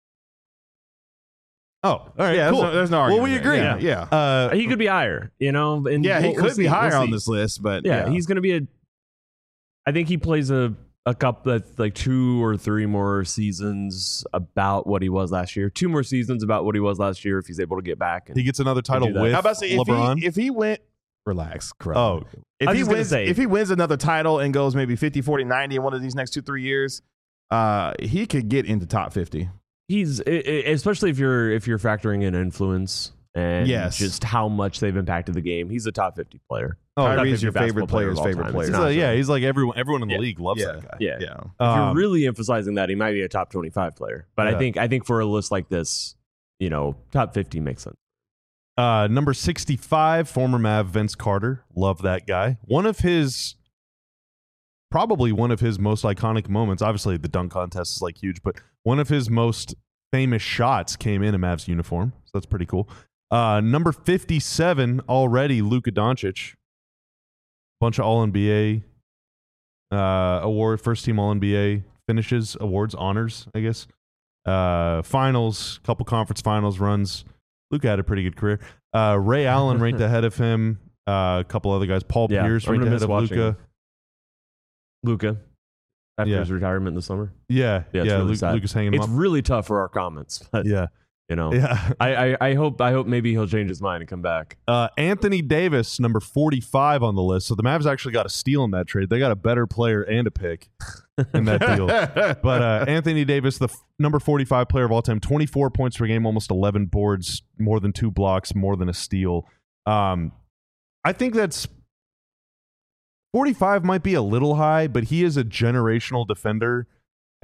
Oh, all right, Yeah, cool. there's, no, there's no well, argument. we there. agree. Yeah, yeah. Uh, He could be higher, you know. And Yeah, he we'll- could we'll be see. higher We'll on see. this list, but Yeah, yeah, he's going to be a. I think he plays a a couple that's like two or three more seasons about what he was last year. Two more seasons about what he was last year if he's able to get back. And he gets another title do that. with How about say if LeBron. he if he went relax, correct. Oh. if I was he just gonna wins say- if he wins another title and goes maybe fifty, forty, ninety in one of these next two three years, uh, he could get into top fifty. he's i- i- especially if you're if you're factoring in influence and Yes. just how much they've impacted the game. He's a top fifty player. Oh, Top Kyrie's fifty your favorite basketball player player's of all favorite time. player. It's He's not like- yeah, so- he's like everyone. Everyone in the Yeah. league loves Yeah. that guy. yeah. Yeah, If Um, you're really emphasizing that, he might be a top twenty-five player. But Yeah. I think I think for a list like this, you know, top fifty makes sense. Uh, number sixty-five, former Mav Vince Carter. Love that guy. One of his, probably one of his most iconic moments. Obviously, the dunk contest is like huge, but one of his most famous shots came in a Mavs uniform. So that's pretty cool. Uh, number fifty-seven, already Luka Doncic. Bunch of All N B A uh, award, first team All N B A finishes, awards, honors, I guess. Uh, finals, couple conference finals runs. Luka had a pretty good career. Uh, Ray Allen ranked ahead of him. Uh, a couple other guys. Paul Yeah, Pierce I'm ranked gonna ahead miss of watching Luka. Luca, after Yeah. his retirement in the summer. Yeah, Yeah, yeah. it's really Luke, sad. Luka's hanging him It's up. really tough for our comments. But, Yeah, you know, yeah. I, I, I hope I hope maybe he'll change his mind and come back. Uh, Anthony Davis, number forty-five on the list. So the Mavs actually got a steal in that trade. They got a better player and a pick in that deal. But uh, Anthony Davis, the f- number forty-five player of all time, twenty-four points per game, almost eleven boards, more than two blocks, more than a steal. Um, I think that's forty-five might be a little high, but he is a generational defender.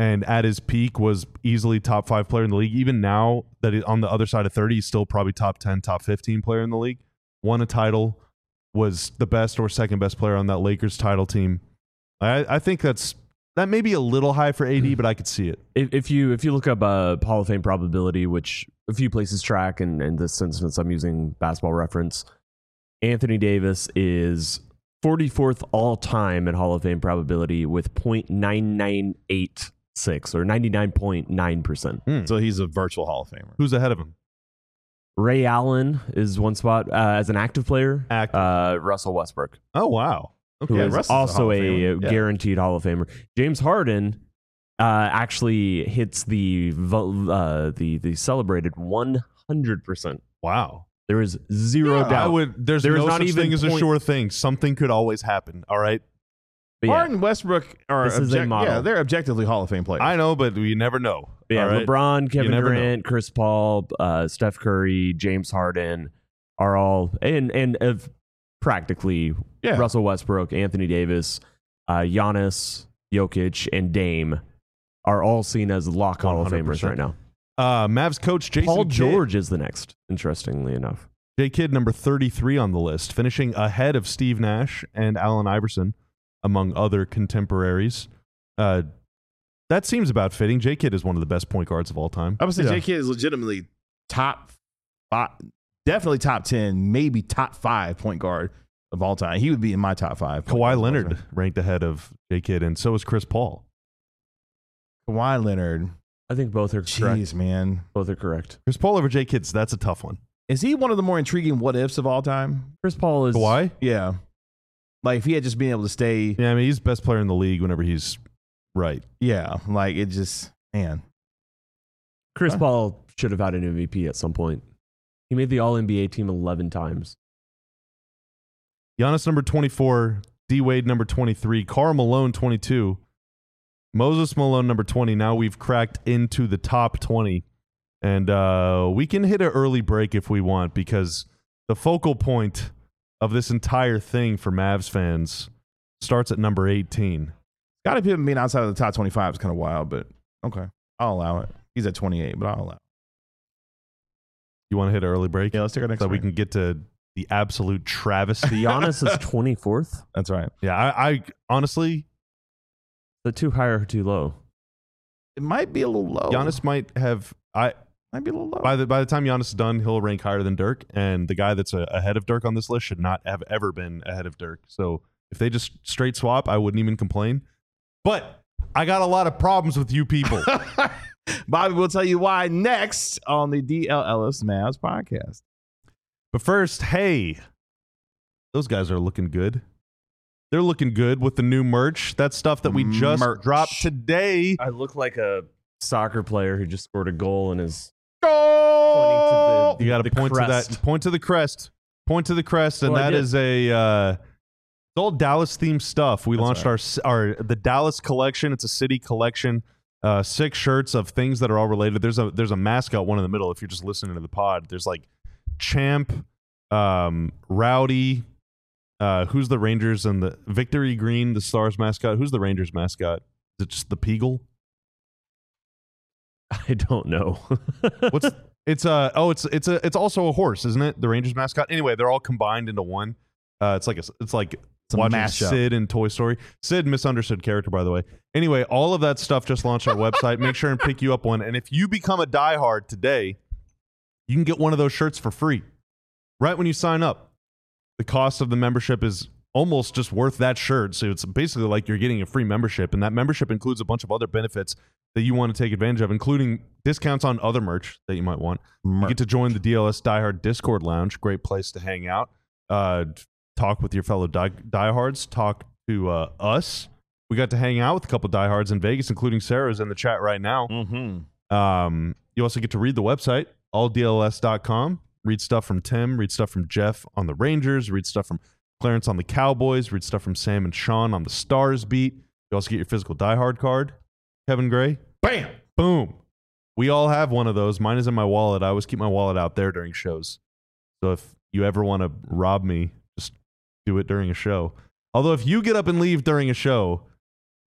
and at his peak was easily top five player in the league. Even now that he, on the other side of thirty, he's still probably top ten, top fifteen player in the league. Won a title, was the best or second best player on that Lakers title team. I, I think that's that may be a little high for A D, but I could see it. If, if you if you look up uh, Hall of Fame probability, which a few places track, and in this instance I'm using Basketball Reference, Anthony Davis is forty-fourth all time in Hall of Fame probability with point nine nine eight six or ninety-nine point nine percent. Hmm. So he's a virtual Hall of Famer. Who's ahead of him? Ray Allen is one spot uh, as an active player. Active. Uh, Russell Westbrook, Oh, wow. who Yeah, is Russ is a also Hall of a, Famer. Yeah. guaranteed Hall of Famer. James Harden uh, actually hits the vo- uh, the the celebrated one hundred percent. Wow. There is zero Yeah, doubt. I would. There's There is no not such even thing as a point- sure thing. Something could always happen. All right. But yeah, Harden, Westbrook are This is a object- model. yeah, they're objectively Hall of Fame players. I know, but you never know. but yeah all right? LeBron, Kevin never know. Durant, Chris Paul, uh, Steph Curry, James Harden are all and and of practically Yeah. Russell Westbrook, Anthony Davis, uh, Giannis, Jokic, and Dame are all seen as lock Hall of one hundred Famers percent. right now. Uh, Mavs coach Jason Paul Kidd. George is the next, interestingly enough. J. Kidd, number thirty-three on the list, finishing ahead of Steve Nash and Allen Iverson, among other contemporaries. Uh, that seems about fitting. J. Kidd is one of the best point guards of all time. I would say Yeah. J K is legitimately top five, definitely top ten, maybe top five point guard of all time. He would be in my top five. point guards Kawhi of all Leonard time. ranked ahead of J. Kidd, and so is Chris Paul. Kawhi Leonard. I think both are correct. Jeez, man. Both are correct. Chris Paul over J. Kidd's, that's a tough one. Is he one of the more intriguing what ifs of all time? Chris Paul is Kawhi? Yeah. Like if he had just been able to stay, Yeah, I mean, he's the best player in the league whenever he's right. yeah, like it just, man. Chris Huh? Paul should have had an M V P at some point. He made the All N B A team eleven times. Giannis, number twenty-four. D. Wade, number twenty-three. Karl Malone, twenty-two. Moses Malone, number twenty. Now we've cracked into the top twenty. And uh, we can hit an early break if we want, because the focal point of this entire thing for Mavs fans starts at number eighteen. Got to be being outside of the top twenty-five is kind of wild, but okay. I'll allow it. He's at twenty-eight, but I'll allow it. You want to hit an early break? Yeah, let's take our next so we break. can get to the absolute travesty. Giannis is twenty-fourth. That's right. yeah, I, I honestly, The too high or too low? It might be a little low. Giannis might have. I might be a little low. by the by the time Giannis is done, he'll rank higher than Dirk, and the guy that's a, ahead of Dirk on this list should not have ever been ahead of Dirk. So if they just straight swap, I wouldn't even complain. But I got a lot of problems with you people. Bobby will tell you why next on the D L Ellis Mavs podcast. But first, hey, those guys are looking good. They're looking good with the new merch. That stuff that we just Merch. dropped today. I look like a soccer player who just scored a goal and is Goal! pointing to the You got to the point crest. to that. Point to the crest. Point to the crest, and Well, I that did. is a uh, it's all Dallas themed stuff. We That's launched right. our our the Dallas collection. It's a city collection. Uh, six shirts of things that are all related. There's a there's a mascot one in the middle. If you're just listening to the pod, there's like Champ, um, Rowdy. Uh, who's the Rangers and the Victory Green, the Stars mascot? Who's the Rangers mascot? Is it just the Peagle? I don't know. What's it's uh oh it's it's a it's also a horse, isn't it? The Rangers mascot. Anyway, they're all combined into one. Uh, it's like a it's like a watching mashup. Sid in Toy Story. Sid, misunderstood character, by the way. Anyway, all of that stuff just launched our website. Make sure and pick you up one. And if you become a diehard today, you can get one of those shirts for free right when you sign up. The cost of the membership is almost just worth that shirt. So it's basically like you're getting a free membership. And that membership includes a bunch of other benefits that you want to take advantage of, including discounts on other merch that you might want. You get to join the D L S Diehard Discord Lounge. Great place to hang out. Uh, talk with your fellow die- diehards. Talk to uh, us. We got to hang out with a couple diehards in Vegas, including Sarah's in the chat right now. Mm-hmm. Um, you also get to read the website, all D L S dot com. Read stuff from Tim, read stuff from Jeff on the Rangers, read stuff from Clarence on the Cowboys, read stuff from Sam and Sean on the Stars beat. You also get your physical diehard card, Kevin Gray. Bam! Boom. We all have one of those. Mine is in my wallet. I always keep my wallet out there during shows. So if you ever want to rob me, just do it during a show. Although if you get up and leave during a show,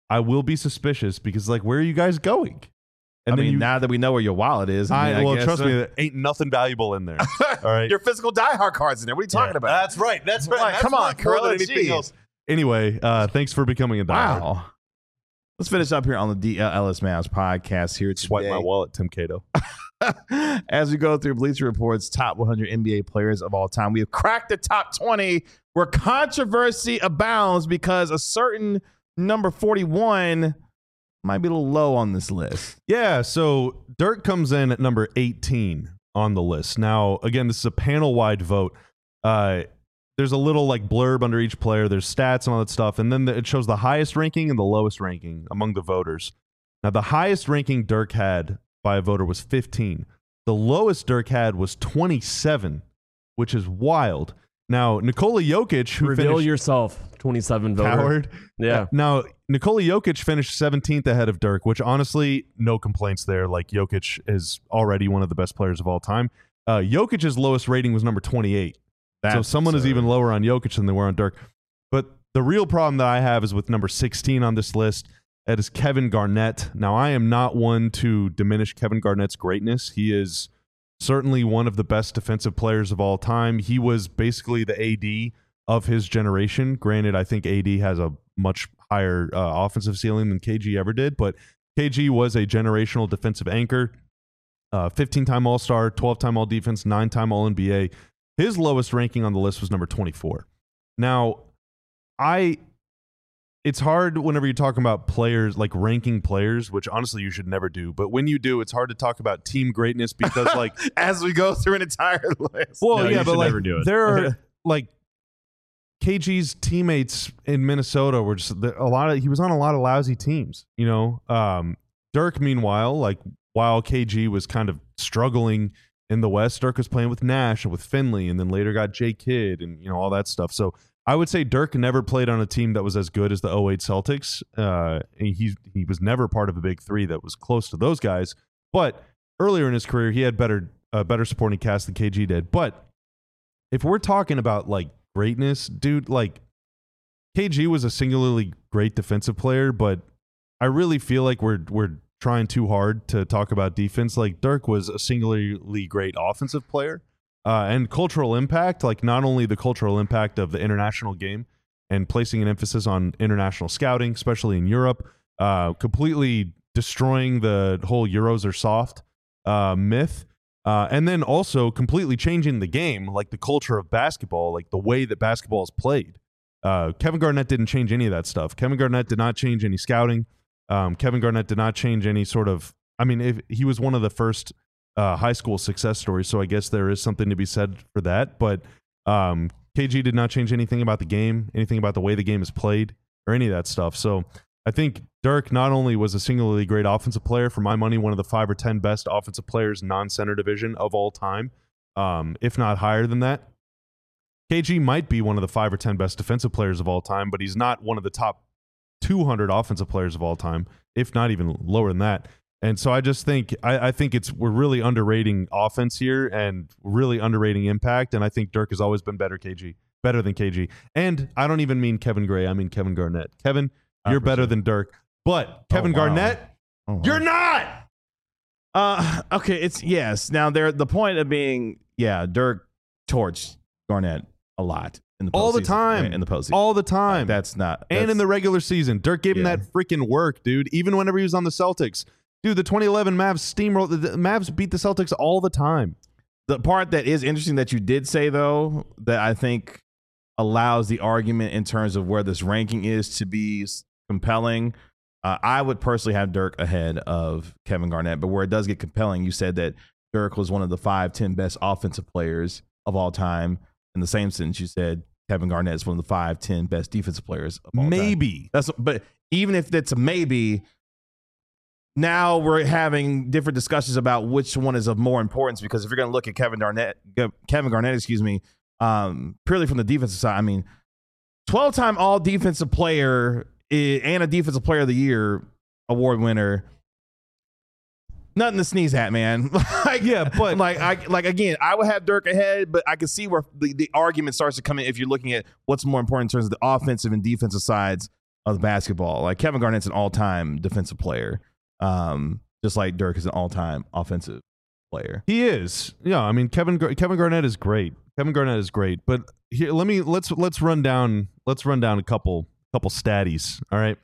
I will be suspicious because, like, where are you guys going? And I then mean, you, now that we know where your wallet is, I, I, mean, I well, guess, trust uh, me, there ain't nothing valuable in there. All right, your physical diehard cards in there. What are you talking Yeah, about? That's right. That's right. Like, That's come on, worth more than Corella, anything geez. else. Anyway, uh, thanks for becoming a diehard. Wow. Let's finish up here on the D L Ellis Mavs podcast here today. Swipe my wallet, Tim Cato. As we go through Bleacher Report's top one hundred N B A players of all time, we have cracked the top twenty where controversy abounds because a certain number forty-one might be a little low on this list. Yeah, so Dirk comes in at number eighteen on the list. Now, again, this is a panel-wide vote. Uh, there's a little like blurb under each player. There's stats and all that stuff. And then the, it shows the highest ranking and the lowest ranking among the voters. Now, the highest ranking Dirk had by a voter was fifteen. The lowest Dirk had was twenty-seven, which is wild. Now, Nikola Jokic, who Reveal finished yourself, twenty-seven voter. coward. Yeah. Now, Nikola Jokic finished seventeenth ahead of Dirk, which honestly, no complaints there. Like, Jokic is already one of the best players of all time. Uh, Jokic's lowest rating was number twenty-eight. That's so someone is absurd. even lower on Jokic than they were on Dirk. But the real problem that I have is with number sixteen on this list. That is Kevin Garnett. Now, I am not one to diminish Kevin Garnett's greatness. He is certainly one of the best defensive players of all time. He was basically the A D of his generation. Granted, I think A D has a much higher uh, offensive ceiling than K G ever did, but K G was a generational defensive anchor. Uh, fifteen-time All-Star, twelve-time All-Defense, nine-time All N B A. His lowest ranking on the list was number twenty-four. Now, I... It's hard whenever you're talking about players, like ranking players, which honestly you should never do. But when you do, it's hard to talk about team greatness because, like, as we go through an entire list. well, No, you yeah, but should like, never do it. there are like K G's teammates in Minnesota were just a lot of. He was on a lot of lousy teams, you know. Um, Dirk, meanwhile, like while K G was kind of struggling in the West, Dirk was playing with Nash and with Finley, and then later got J Kidd and you know all that stuff. So I would say Dirk never played on a team that was as good as the oh eight Celtics. Uh, and he he was never part of a big three that was close to those guys. But earlier in his career, he had better uh, better supporting cast than K G did. But if we're talking about like greatness, dude, like K G was a singularly great defensive player, but I really feel like we're we're trying too hard to talk about defense. Like Dirk was a singularly great offensive player. Uh, and cultural impact, like not only the cultural impact of the international game and placing an emphasis on international scouting, especially in Europe, uh, completely destroying the whole Euros are soft uh, myth, uh, and then also completely changing the game, like the culture of basketball, like the way that basketball is played. Uh, Kevin Garnett didn't change any of that stuff. Kevin Garnett did not change any scouting. Um, Kevin Garnett did not change any sort of, I mean, if he was one of the first Uh, high school success story, so I guess there is something to be said for that. But um, K G did not change anything about the game, anything about the way the game is played, or any of that stuff. So I think Dirk not only was a singularly great offensive player, for my money, one of the five or ten best offensive players non-center division of all time, um, if not higher than that. K G might be one of the five or ten best defensive players of all time, but he's not one of the top two hundred offensive players of all time, if not even lower than that. And so I just think I, I think it's we're really underrating offense here and really underrating impact. And I think Dirk has always been better K G, better than K G. And I don't even mean Kevin Gray. I mean Kevin Garnett. Kevin, you're better than Dirk. But Kevin Oh, wow. Garnett, Oh, wow. you're not. Uh, okay, it's yes. Now there, the point of being, yeah, Dirk torched Garnett a lot in the All the postseason, time. right, in the postseason. All the time. That's not, and that's- in the regular season. Dirk gave him Yeah. that freaking work, dude. Even whenever he was on the Celtics. Dude, the twenty eleven Mavs steamrolled. The Mavs beat the Celtics all the time. The part that is interesting that you did say, though, that I think allows the argument in terms of where this ranking is to be s- compelling. Uh, I would personally have Dirk ahead of Kevin Garnett, but where it does get compelling, you said that Dirk was one of the five, ten best offensive players of all time. In the same sentence, you said Kevin Garnett is one of the five, ten best defensive players of all time. Maybe. That's, but even if that's a maybe, now we're having different discussions about which one is of more importance, because if you're going to look at Kevin Garnett, Kevin Garnett, excuse me, um, purely from the defensive side, I mean, twelve-time all defensive player i- and a defensive player of the year award winner. Nothing to sneeze at, man. like, Yeah, but- like, I like again, I would have Dirk ahead, but I can see where the, the argument starts to come in if you're looking at what's more important in terms of the offensive and defensive sides of basketball. Like Kevin Garnett's an all-time defensive player, um, just like Dirk is an all-time offensive player. He is. Yeah, I mean Kevin Gar- Kevin Garnett is great. Kevin Garnett is great. But here, let me let's let's run down let's run down a couple couple statties. All right.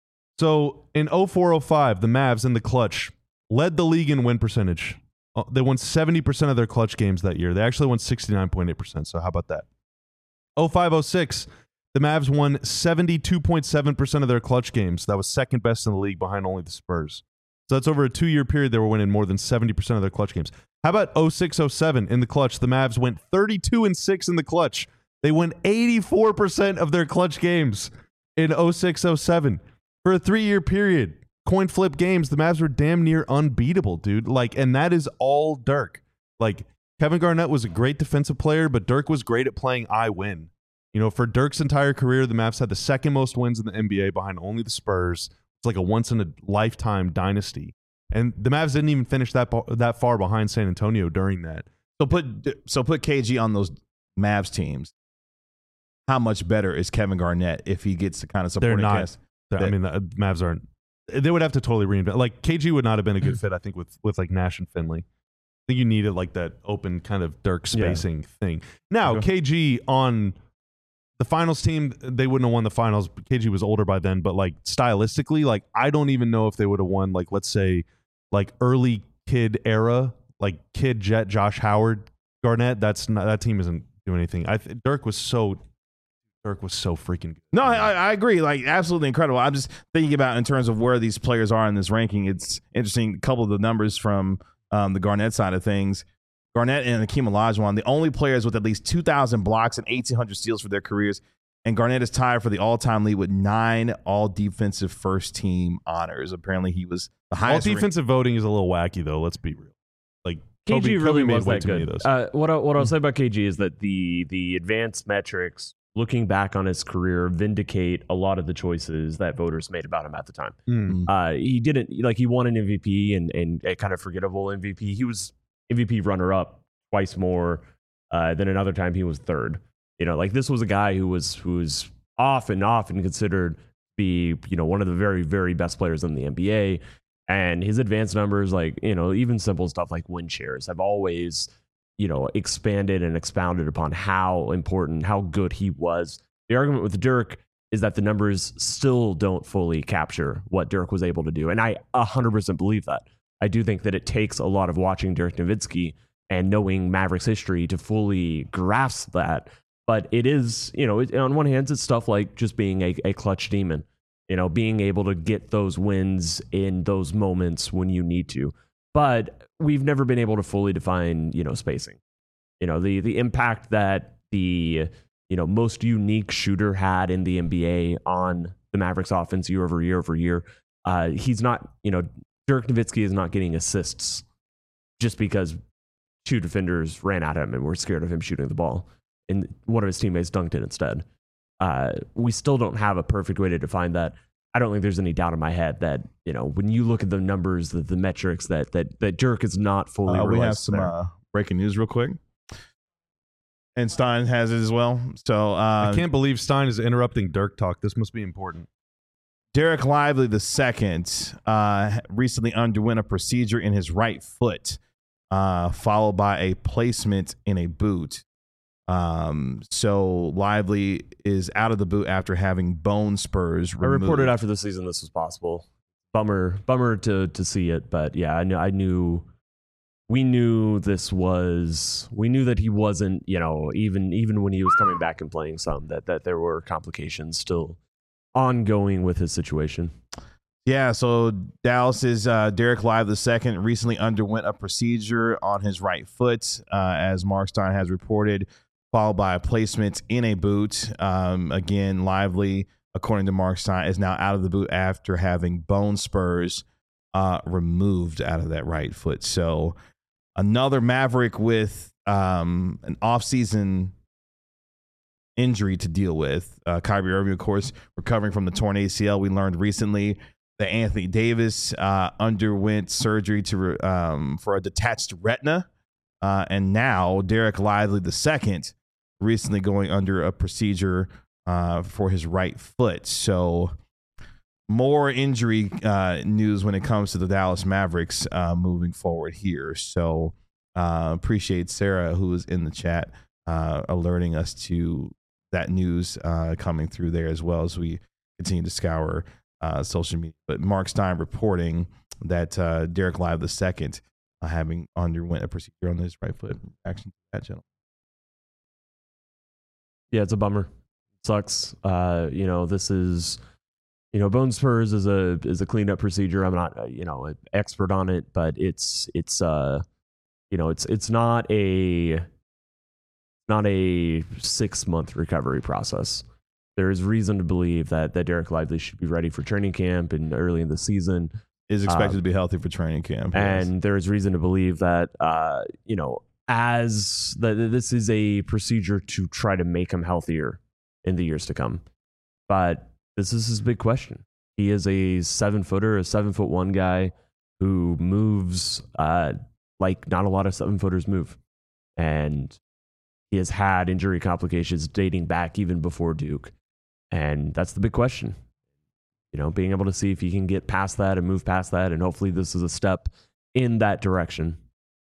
So in oh four oh five, the Mavs in the clutch led the league in win percentage. Uh, They won seventy percent of their clutch games that year. They actually won sixty-nine point eight percent. So how about that? oh five oh six, the Mavs won seventy-two point seven percent of their clutch games. That was second best in the league behind only the Spurs. So that's over a two-year period they were winning more than seventy percent of their clutch games. How about oh six oh seven in the clutch? The Mavs went thirty-two and six in the clutch. They won eighty-four percent of their clutch games in oh six oh seven. For a three-year period, coin flip games, the Mavs were damn near unbeatable, dude. Like, and that is all Dirk. Like, Kevin Garnett was a great defensive player, but Dirk was great at playing I win. You know, for Dirk's entire career, the Mavs had the second most wins in the N B A behind only the Spurs. It's like a once-in-a-lifetime dynasty. And the Mavs didn't even finish that that far behind San Antonio during that. So put so put K G on those Mavs teams. How much better is Kevin Garnett if he gets the kind of supporting They're not. cast? I that- mean, the Mavs aren't. They would have to totally reinvent. Like, K G would not have been a good fit, I think, with, with like Nash and Finley. I think you needed like that open kind of Dirk spacing thing. Now, Okay. K G on the finals team, they wouldn't have won the finals. K G was older by then, but like stylistically, like I don't even know if they would have won, like, let's say, like early Kid era, like Kid, Jet, Josh Howard, Garnett. That's not, that team isn't doing anything. I th- Dirk was so Dirk was so freaking good. No, I, I agree. Like, absolutely incredible. I'm just thinking about in terms of where these players are in this ranking. It's interesting. A couple of the numbers from um, the Garnett side of things. Garnett and Hakeem Olajuwon, the only players with at least two thousand blocks and eighteen hundred steals for their careers. And Garnett is tied for the all-time lead with nine all-defensive first-team honors. Apparently, he was the All highest. defensive voting is a little wacky, though. Let's be real. Like K G Kobe, really Kobe made was way that too many good. of those. Uh, what I, what I'll say about K G is that the the advanced metrics, looking back on his career, vindicate a lot of the choices that voters made about him at the time. Mm. Uh, he didn't like he won an M V P and and a kind of forgettable M V P. He was M V P runner up twice more uh, than another time he was third. You know, like this was a guy who was who was often often considered to be, you know, one of the very very best players in the N B A. And his advanced numbers, like, you know, even simple stuff like win shares, have always, you know, expanded and expounded upon how important, how good he was. The argument with Dirk is that the numbers still don't fully capture what Dirk was able to do. And I one hundred percent believe that. I do think that it takes a lot of watching Dirk Nowitzki and knowing Mavericks history to fully grasp that. But it is, you know, it, on one hand, it's stuff like just being a, a clutch demon. You know, being able to get those wins in those moments when you need to. But we've never been able to fully define, you know, spacing. You know, the the impact that the, you know, most unique shooter had in the N B A on the Mavericks offense year over year over year. Uh, he's not, you know, Dirk Nowitzki is not getting assists just because two defenders ran at him and were scared of him shooting the ball. And one of his teammates dunked it instead. Uh, we still don't have a perfect way to define that. I don't think there's any doubt in my head that, you know, when you look at the numbers, the, the metrics, that that that Dirk is not fully Uh, we have realized some there. uh, breaking news real quick. And Stein has it as well. So uh, I can't believe Stein is interrupting Dirk talk. This must be important. Derek Lively the second uh, recently underwent a procedure in his right foot, uh, followed by a placement in a boot. Um, so Lively is out of the boot after having bone spurs I removed. reported after the season this was possible. Bummer, bummer to to see it, but yeah, I knew, I knew, we knew this was, we knew that he wasn't, you know, even even when he was coming back and playing some, that that there were complications still ongoing with his situation. Yeah, so Dallas's uh, Derek Lively the second recently underwent a procedure on his right foot, uh, as Mark Stein has reported, followed by a placement in a boot. Um, again, Lively, according to Mark Stein, is now out of the boot after having bone spurs uh, removed out of that right foot. So another Maverick with um, an offseason injury to deal with. Uh, Kyrie Irving, of course, recovering from the torn A C L. We learned recently that Anthony Davis uh, underwent surgery to um, for a detached retina. Uh, and now Derek Lively the second recently going under a procedure uh, for his right foot. So more injury uh, news when it comes to the Dallas Mavericks uh, moving forward here. So uh, appreciate Sarah, who is in the chat, uh, alerting us to that news uh, coming through there as well as we continue to scour uh, social media. But Mark Stein reporting that uh, Derek Lively the second uh, having underwent a procedure on his right foot. Action to that, gentleman. Yeah, it's a bummer. Sucks. Uh, you know, this is, you know, bone spurs is a is a cleanup procedure. I'm not, uh, you know, an expert on it, but it's it's uh, you know, it's it's not a not a six month recovery process. There is reason to believe that that Derek Lively should be ready for training camp and early in the season. Is expected um, to be healthy for training camp, and yes. there is reason to believe that, uh, you know, as that this is a procedure to try to make him healthier in the years to come. But this is his big question. He is a seven footer, a seven foot one guy who moves uh, like not a lot of seven footers move. And he has had injury complications dating back even before Duke. And that's the big question. You know, being able to see if he can get past that and move past that. And hopefully this is a step in that direction.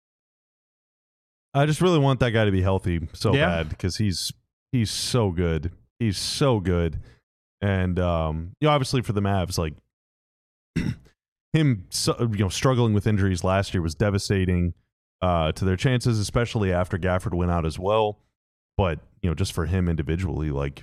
I just really want that guy to be healthy so Yeah. bad because he's he's so good. He's so good. And um, you know, obviously for the Mavs, like him, so, you know, struggling with injuries last year was devastating uh, to their chances, especially after Gafford went out as well. But you know, just for him individually, like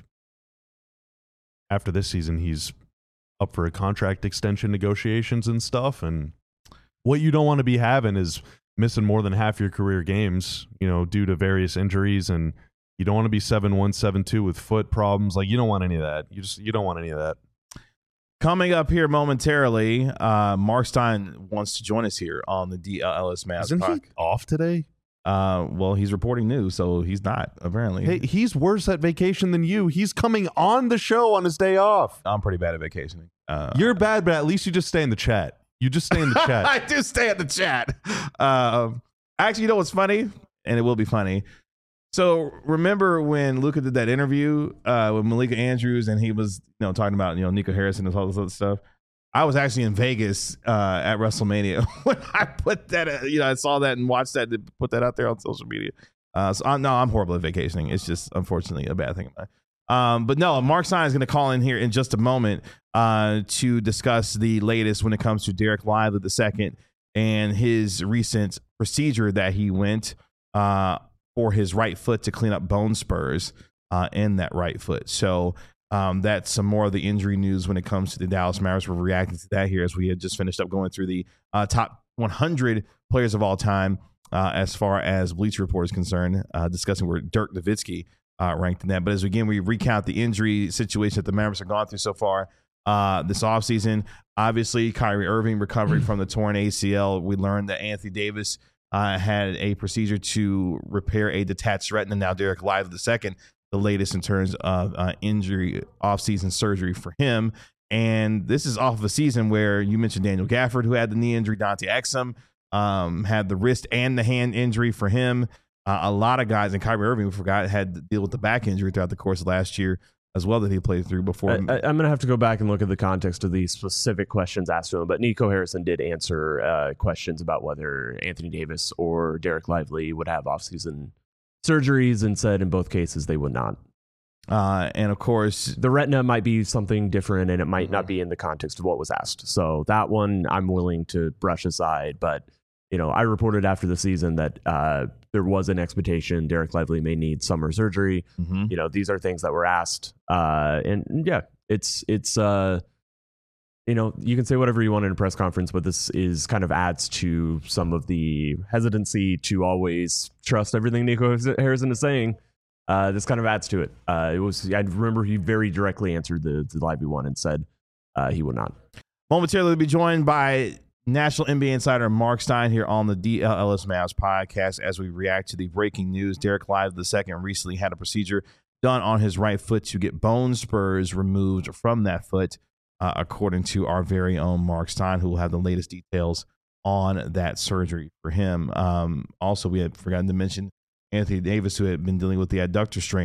after this season, he's up for a contract extension negotiations and stuff. And what you don't want to be having is missing more than half your career games, you know, due to various injuries. And you don't want to be seven one, seven two with foot problems. Like you don't want any of that. You just, you don't want any of that. Coming up here momentarily, uh, Mark Stein wants to join us here on the D L L S Mavs Isn't podcast. he off today? Uh, well, he's reporting news, so he's not, apparently. Hey, he's worse at vacation than you. He's coming on the show on his day off. I'm pretty bad at vacationing. Uh, You're bad, but at least you just stay in the chat. You just stay in the chat. I do stay at the chat. Um, actually, you know what's funny? And it will be funny. So remember when Luka did that interview uh, with Malika Andrews and he was, you know, talking about, you know, Nico Harrison and all this other stuff? I was actually in Vegas uh, at WrestleMania when I put that, uh, you know, I saw that and watched that, and put that out there on social media. Uh, so I'm, no, I'm horrible at vacationing. It's just, unfortunately, a bad thing of mine. Um, but no, Mark Stein is going to call in here in just a moment uh, to discuss the latest when it comes to Derek Lively the second and his recent procedure that he went uh, for his right foot to clean up bone spurs uh, in that right foot. So um, that's some more of the injury news when it comes to the Dallas Mavericks. We're reacting to that here as we had just finished up going through the uh, top one hundred players of all time uh, as far as Bleacher Report is concerned, uh, discussing where Dirk Nowitzki uh, ranked in that. But as again, we recount the injury situation that the Mavericks have gone through so far uh, this offseason. Obviously, Kyrie Irving recovering from the torn A C L. We learned that Anthony Davis uh, had a procedure to repair a detached retina. Now Derek Lively the second, the latest in terms of uh, injury, offseason surgery for him. And this is off of a season where you mentioned Daniel Gafford, who had the knee injury, Dante Exum um, had the wrist and the hand injury for him. Uh, a lot of guys, and Kyrie Irving, we forgot, had to deal with the back injury throughout the course of last year as well that he played through before. I, I, I'm going to have to go back and look at the context of the specific questions asked to him, but Nico Harrison did answer uh, questions about whether Anthony Davis or Derek Lively would have offseason surgeries and said in both cases they would not. Uh, and of course, the retina might be something different and it might not be in the context of what was asked. So that one I'm willing to brush aside. But, you know, I reported after the season that uh, there was an expectation Derek Lively may need summer surgery. Mm-hmm. You know, these are things that were asked. Uh, and yeah, it's, it's, uh, you know, you can say whatever you want in a press conference, but this is kind of adds to some of the hesitancy to always trust everything Nico Harrison is saying. Uh, this kind of adds to it. Uh, it was, I remember he very directly answered the, the Lively one and said uh, he would not. Momentarily, we'll be joined by National N B A insider Mark Stein here on the D L L S Mavs podcast as we react to the breaking news. Derek Lively the second recently had a procedure done on his right foot to get bone spurs removed from that foot, uh, according to our very own Mark Stein, who will have the latest details on that surgery for him. Um, also, we had forgotten to mention Anthony Davis, who had been dealing with the adductor strain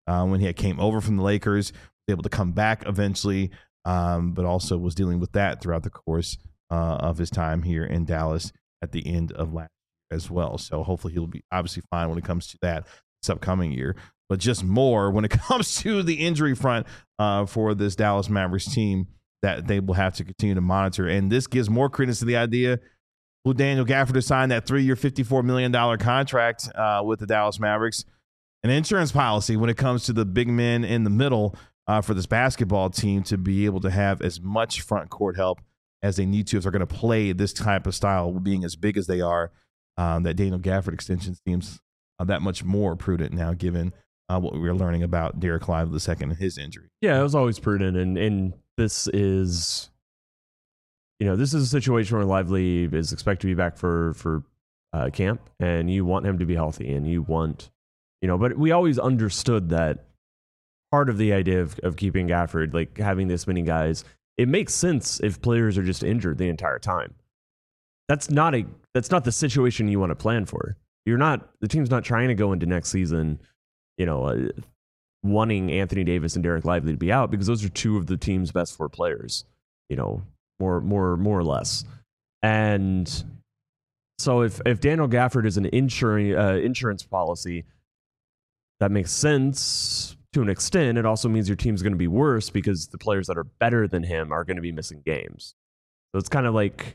uh, when he had came over from the Lakers, was able to come back eventually, um, but also was dealing with that throughout the course uh, of his time here in Dallas at the end of last year as well. So hopefully he'll be obviously fine when it comes to that this upcoming year, but just more when it comes to the injury front uh, for this Dallas Mavericks team that they will have to continue to monitor. And this gives more credence to the idea who Daniel Gafford to sign that three-year, fifty-four million dollars contract uh, with the Dallas Mavericks. An insurance policy when it comes to the big men in the middle uh, for this basketball team to be able to have as much front court help as they need to if they're going to play this type of style, being as big as they are. Um, that Daniel Gafford extension seems uh, that much more prudent now, given uh, what we were learning about Derek Lively the second and his injury. Yeah, it was always prudent, and and this is, you know, this is a situation where Lively is expected to be back for for uh, camp, and you want him to be healthy, and you want, you know, but we always understood that part of the idea of, of keeping Gafford, like having this many guys, it makes sense if players are just injured the entire time. That's not a that's not the situation you want to plan for. You're not the team's not trying to go into next season, you know, uh, wanting Anthony Davis and Derek Lively to be out, because those are two of the team's best four players, you know, more more more or less. And so if if Daniel Gafford is an insurance uh, insurance policy, that makes sense to an extent. It also means your team's going to be worse because the players that are better than him are going to be missing games. So it's kind of like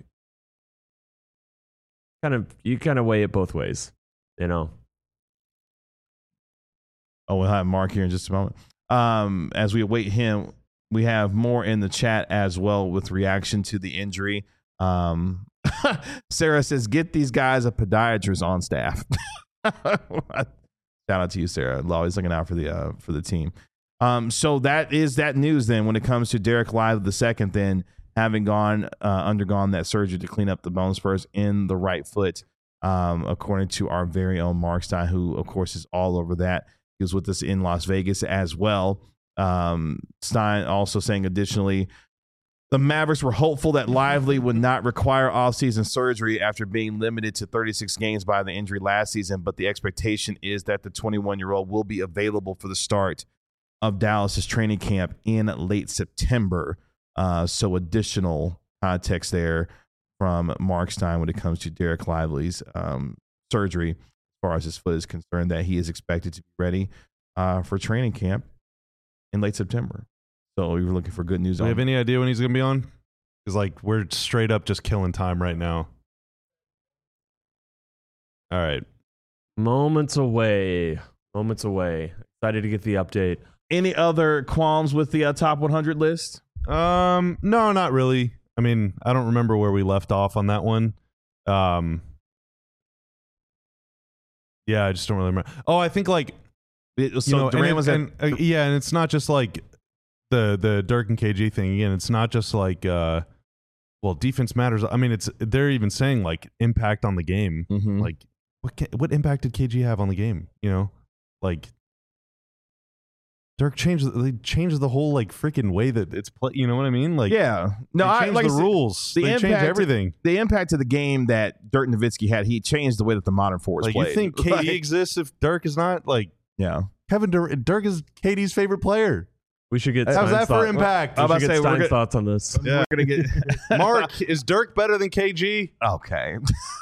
kind of you kind of weigh it both ways, you know. Oh, we'll have Mark here in just a moment. Um, as we await him, we have more in the chat as well with reaction to the injury. Um, Sarah says, get these guys a podiatrist on staff. Shout out to you, Sarah. Always looking out for the uh, for the team. Um, so that is that news then when it comes to Derek Lively the second, then having gone uh, undergone that surgery to clean up the bone spurs in the right foot, um, according to our very own Mark Stein, who, of course, is all over that. He was with us in Las Vegas as well. Um, Stein also saying additionally, the Mavericks were hopeful that Lively would not require offseason surgery after being limited to thirty-six games by the injury last season, but the expectation is that the twenty-one-year-old will be available for the start of Dallas's training camp in late September. Uh, so additional context there from Mark Stein when it comes to Derek Lively's um, surgery as far as his foot is concerned, that he is expected to be ready uh, for training camp in late September. So we were looking for good news. Do we on have any idea when he's going to be on? Because like we're straight up just killing time right now. All right. Moments away. Moments away. Excited to get the update. Any other qualms with the uh, top one hundred list? Um, no, not really. I mean, I don't remember where we left off on that one. Um, yeah, I just don't really remember. Oh, I think like, It was, you so know, Durant and, was at, and, uh, yeah, and it's not just like the the Dirk and K G thing. Again, it's not just like uh, well, defense matters. I mean, it's they're even saying like impact on the game. Mhm. Like, what ca- what impact did K G have on the game? You know, like Dirk changed they changed the whole like freaking way that it's play. You know what I mean? Like, yeah, no, they I changed like the I said, rules. the They changed impact- everything. The impact to the game that Dirk Nowitzki had, he changed the way that the modern forwards Like, played. you think K D Like, exists if Dirk is not? Like, yeah. Kevin Dur- Dirk is K D's favorite player. We should get How's Stein's that for thought- impact? We I'm about should to get say, we're Stein's good- thoughts on this. Yeah. We're gonna get Mark, is Dirk better than K G? okay.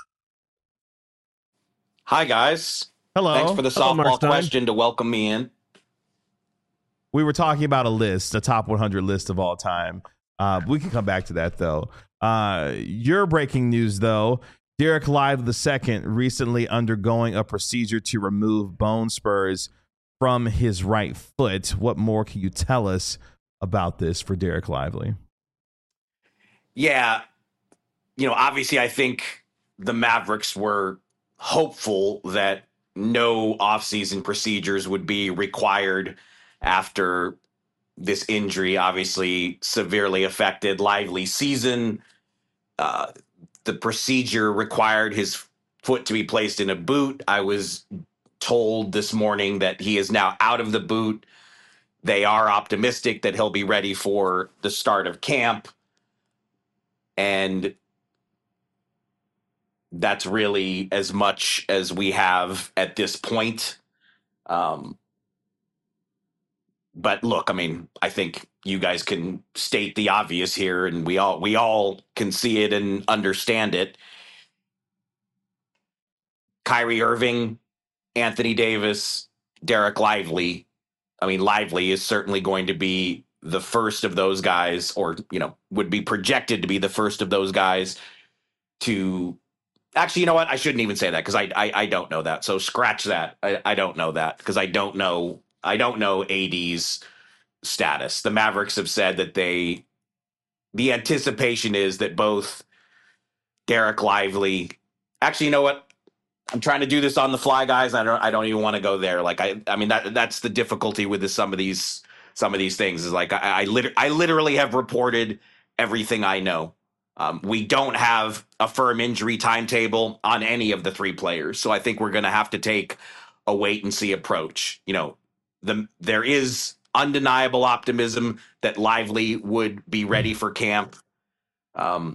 Hi, guys. Hello. Thanks for the Hello, Mark softball Stein. question to welcome me in. We were talking about a list, a top one hundred list of all time. Uh, we can come back to that though. Uh, your breaking news though: Derek Lively the second recently undergoing a procedure to remove bone spurs from his right foot. What more can you tell us about this for Derek Lively? Yeah, you know, obviously, I think the Mavericks were hopeful that no offseason procedures would be required after this injury obviously severely affected Lively's season. Uh, the procedure required his foot to be placed in a boot. I was told this morning that he is now out of the boot. They are optimistic that he'll be ready for the start of camp. And that's really as much as we have at this point. Um, but look, I mean, I think you guys can state the obvious here, and we all we all can see it and understand it. Kyrie Irving, Anthony Davis, Derek Lively. I mean, Lively is certainly going to be the first of those guys, or, you know, would be projected to be the first of those guys to actually, you know what? I shouldn't even say that because I, I I don't know that. So scratch that. I, I don't know that because I don't know. I don't know A D's status. The Mavericks have said that they, the anticipation is that both Derek Lively, actually, you know what? I'm trying to do this on the fly, guys. I don't. I don't even want to go there. Like I. I mean that. That's the difficulty with this, some of these. Some of these things is like I. I, liter- I literally have reported everything I know. Um, we don't have a firm injury timetable on any of the three players, so I think we're going to have to take a wait and see approach. You know, the there is undeniable optimism that Lively would be ready for camp. Um,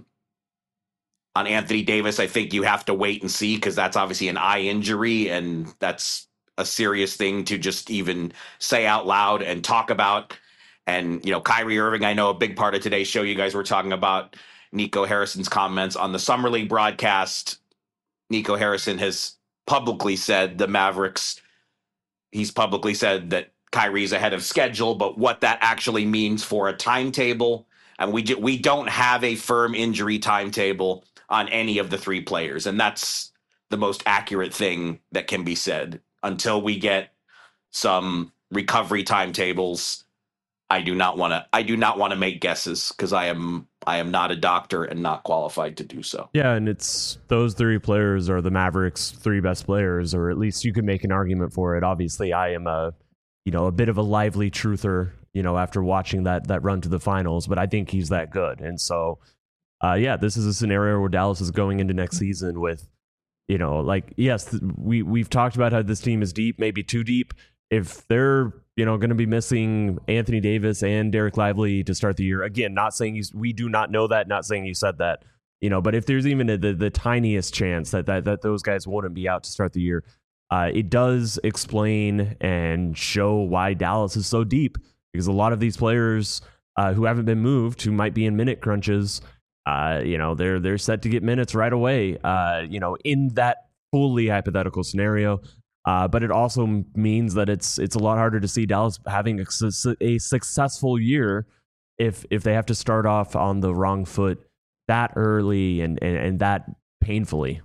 On Anthony Davis, I think you have to wait and see because that's obviously an eye injury, and that's a serious thing to just even say out loud and talk about. And, you know, Kyrie Irving, I know a big part of today's show, you guys were talking about Nico Harrison's comments on the Summer League broadcast. Nico Harrison has publicly said the Mavericks, he's publicly said that Kyrie's ahead of schedule, but what that actually means for a timetable, and we do, we don't have a firm injury timetable on any of the three players. And that's the most accurate thing that can be said. Until we get some recovery timetables, I do not want to I do not want to make guesses because I am I am not a doctor and not qualified to do so. Yeah, and it's those three players are the Mavericks' three best players, or at least you could make an argument for it. Obviously, I am a you know a bit of a lively truther, you know, after watching that that run to the finals, but I think he's that good. And so Uh, yeah, this is a scenario where Dallas is going into next season with, you know, like, yes, th- we, we've talked about how this team is deep, maybe too deep. If they're, you know, going to be missing Anthony Davis and Derek Lively to start the year, again, not saying you, we do not know that, not saying you said that, you know, but if there's even a, the, the tiniest chance that, that, that those guys wouldn't be out to start the year, uh, it does explain and show why Dallas is so deep, because a lot of these players uh, who haven't been moved, who might be in minute crunches, Uh, you know, they're they're set to get minutes right away, uh, you know, in that fully hypothetical scenario. Uh, but it also means that it's it's a lot harder to see Dallas having a, a successful year if if they have to start off on the wrong foot that early and, and, and that painfully.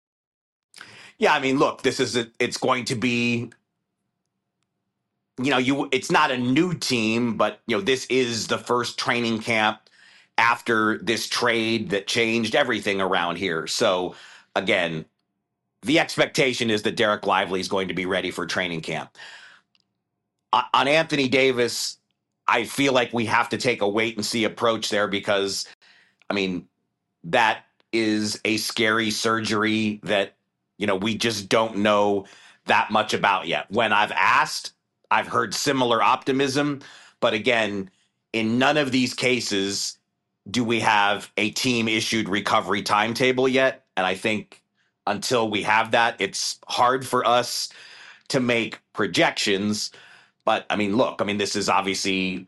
Yeah, I mean, look, this is a, it's going to be, you know, you it's not a new team, but, you know, this is the first training camp after this trade that changed everything around here. So, again, the expectation is that Derek Lively is going to be ready for training camp. On Anthony Davis, I feel like we have to take a wait and see approach there because, I mean, that is a scary surgery that, you know, we just don't know that much about yet. When I've asked, I've heard similar optimism. But again, in none of these cases do we have a team-issued recovery timetable yet? And I think until we have that, it's hard for us to make projections. But, I mean, look, I mean, this is obviously,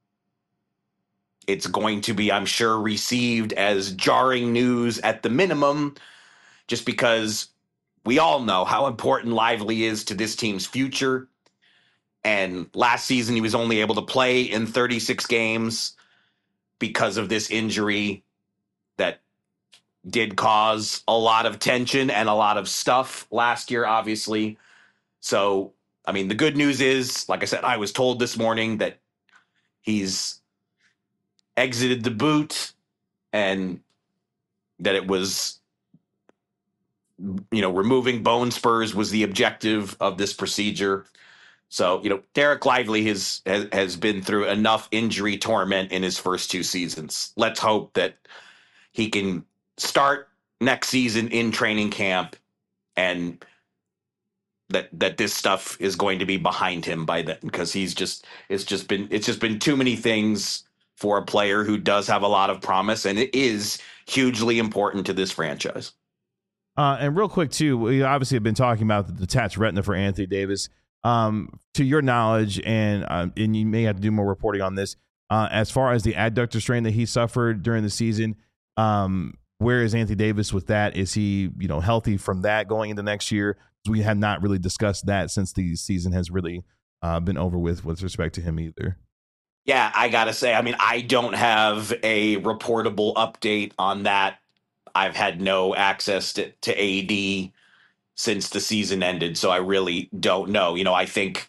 it's going to be, I'm sure, received as jarring news at the minimum, just because we all know how important Lively is to this team's future. And last season, he was only able to play in thirty-six games because of this injury that did cause a lot of tension and a lot of stuff last year, obviously. So, I mean, the good news is, like I said, I was told this morning that he's exited the boot and that it was, you know, removing bone spurs was the objective of this procedure. So, you know, Derek Lively has, has has been through enough injury torment in his first two seasons. Let's hope that he can start next season in training camp and that that this stuff is going to be behind him by then, because he's just it's just been it's just been too many things for a player who does have a lot of promise, and it is hugely important to this franchise. Uh, and real quick too, we obviously have been talking about the detached retina for Anthony Davis. um, to your knowledge, and um, and you may have to do more reporting on this, uh, as far as the adductor strain that he suffered during the season, um, where is Anthony Davis with that? Is he, you know, healthy from that going into next year? We have not really discussed that since the season has really uh, been over with with respect to him either. Yeah, I got to say, I mean, I don't have a reportable update on that. I've had no access to, to A D since the season ended, so I really don't know. You know, I think,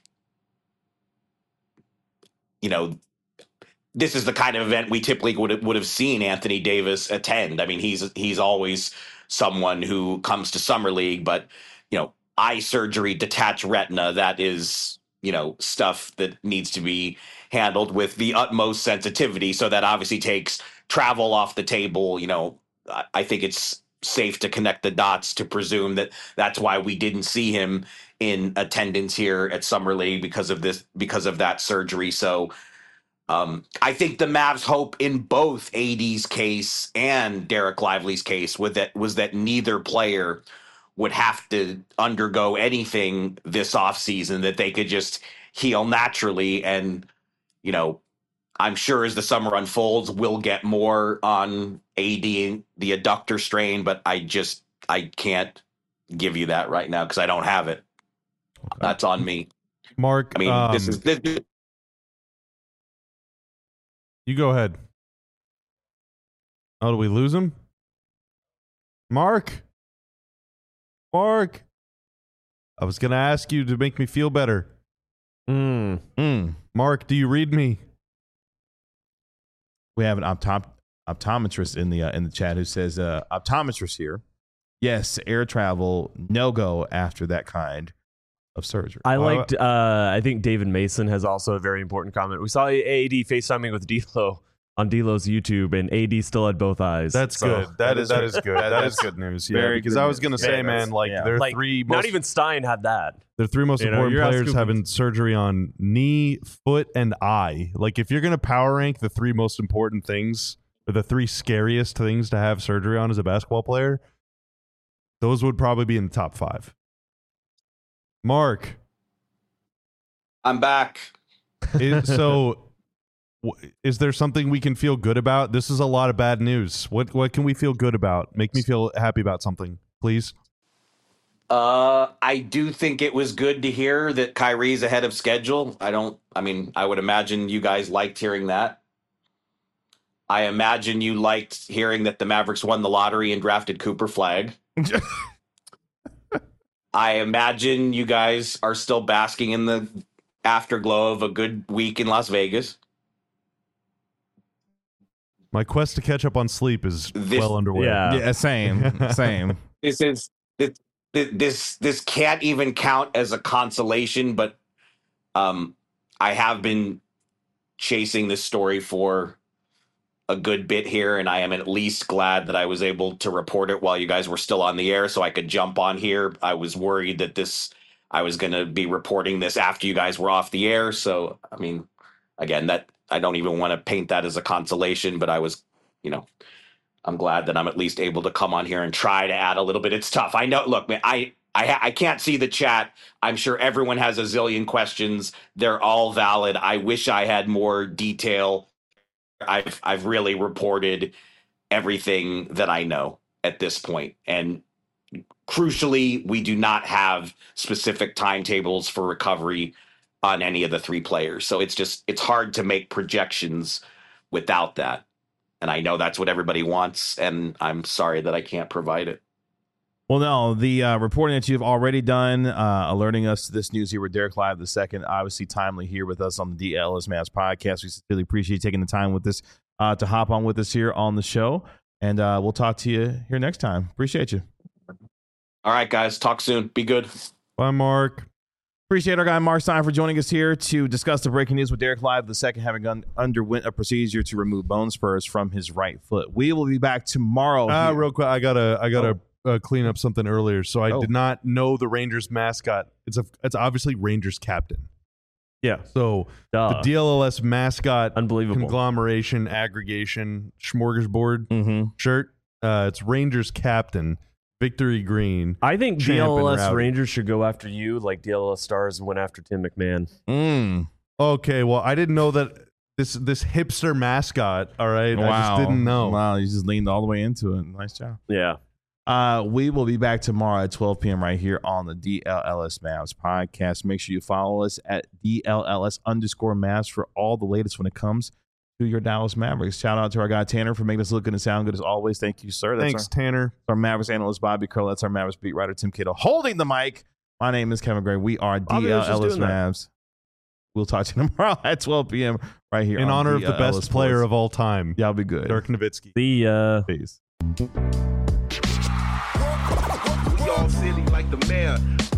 you know, this is the kind of event we typically would have, would have seen Anthony Davis attend. I mean, he's he's always someone who comes to Summer League, but, you know, eye surgery, detached retina, that is, you know, stuff that needs to be handled with the utmost sensitivity. So that obviously takes travel off the table. You know, I think it's safe to connect the dots to presume that that's why we didn't see him in attendance here at Summer League because of this, because of that surgery. So um, I think the Mavs' hope in both A D's case and Derek Lively's case was that was that neither player would have to undergo anything this offseason, that they could just heal naturally. And, you know, I'm sure as the summer unfolds, we'll get more on A D and the adductor strain, but I just, I can't give you that right now because I don't have it. Okay. That's on me. Mark, I mean, um, this is, this, you go ahead. Oh, do we lose him? Mark? Mark? I was going to ask you to make me feel better. Mm. Mm. Mark, do you read me? We have an optom- optometrist in the uh, in the chat who says, uh, optometrist here. Yes, air travel, no go after that kind of surgery. I liked, uh, I think David Mason has also a very important comment. We saw A D FaceTiming with D'Lo on D'Lo's YouTube, and A D still had both eyes. That's so, good. That, that is that is good. that is good news. Yeah, Very because good I was going to news. say, Yeah, man, like yeah. there are like, three. Not most, even Stein had that. the three most You know, important you're players asking- having surgery on knee, foot, and eye. Like if you're going to power rank the three most important things, or the three scariest things to have surgery on as a basketball player, those would probably be in the top five. Mark, I'm back. is, so w- is there something we can feel good about? This is a lot of bad news. What what can we feel good about? Make me feel happy about something, please. Uh, I do think it was good to hear that Kyrie's ahead of schedule. I don't, I mean, I would imagine you guys liked hearing that. I imagine you liked hearing that the Mavericks won the lottery and drafted Cooper Flagg. I imagine you guys are still basking in the afterglow of a good week in Las Vegas. My quest to catch up on sleep is This- well underway. Yeah. Yeah, same, same. This is this this this can't even count as a consolation, but um, I have been chasing this story for a good bit here, and I am at least glad that I was able to report it while you guys were still on the air, so I could jump on here. I was worried that this I was going to be reporting this after you guys were off the air, so I mean, again, that I don't even want to paint that as a consolation, but I was, you know. I'm glad that I'm at least able to come on here and try to add a little bit. It's tough. I know. Look, man, I I, I can't see the chat. I'm sure everyone has a zillion questions. They're all valid. I wish I had more detail. I've I've really reported everything that I know at this point. And crucially, we do not have specific timetables for recovery on any of the three players. So it's just it's hard to make projections without that. And I know that's what everybody wants, and I'm sorry that I can't provide it. Well, no, the uh, reporting that you've already done, uh, alerting us to this news here with Derek Live the second, obviously timely here with us on the D L S Mavs podcast. We sincerely appreciate you taking the time with us uh, to hop on with us here on the show, and uh, we'll talk to you here next time. Appreciate you. All right, guys, talk soon. Be good. Bye, Mark. Appreciate our guy Mark Stein for joining us here to discuss the breaking news with Derek Live the second, having un- underwent a procedure to remove bone spurs from his right foot. We will be back tomorrow. Uh, here. real quick, I gotta I gotta uh, clean up something earlier. So I Oh. did not know the Rangers mascot. It's a it's obviously Rangers captain. Yeah. So Duh. the D L L S mascot Unbelievable. conglomeration aggregation smorgasbord Mhm. shirt. Uh, it's Rangers captain victory green. I think Champ D L and S Rowdy. Rangers should go after you like D L S Stars went after Tim McMahon. Mm. Okay, well, I didn't know that this this hipster mascot. All right, Wow. I just didn't know. Wow, you just leaned all the way into it. Nice job. Yeah. Uh, we will be back tomorrow at twelve p.m. right here on the D L L S Mavs podcast. Make sure you follow us at D L L S underscore Mavs for all the latest when it comes to your Dallas Mavericks. Shout out to our guy Tanner for making us look good and sound good as always. Thank you, sir. That's Thanks, our, Tanner. our Mavericks analyst Bobby Curl. That's our Mavericks beat writer Tim Cato holding the mic. My name is Kevin Gray. We are Bobby D L was just L S doing that. Mavs. We'll talk to you tomorrow at twelve p.m. right here In on honor of D the L L S best player Sports. of all time, Y'all be good. Dirk Nowitzki. The uh Peace. We all silly like the mayor.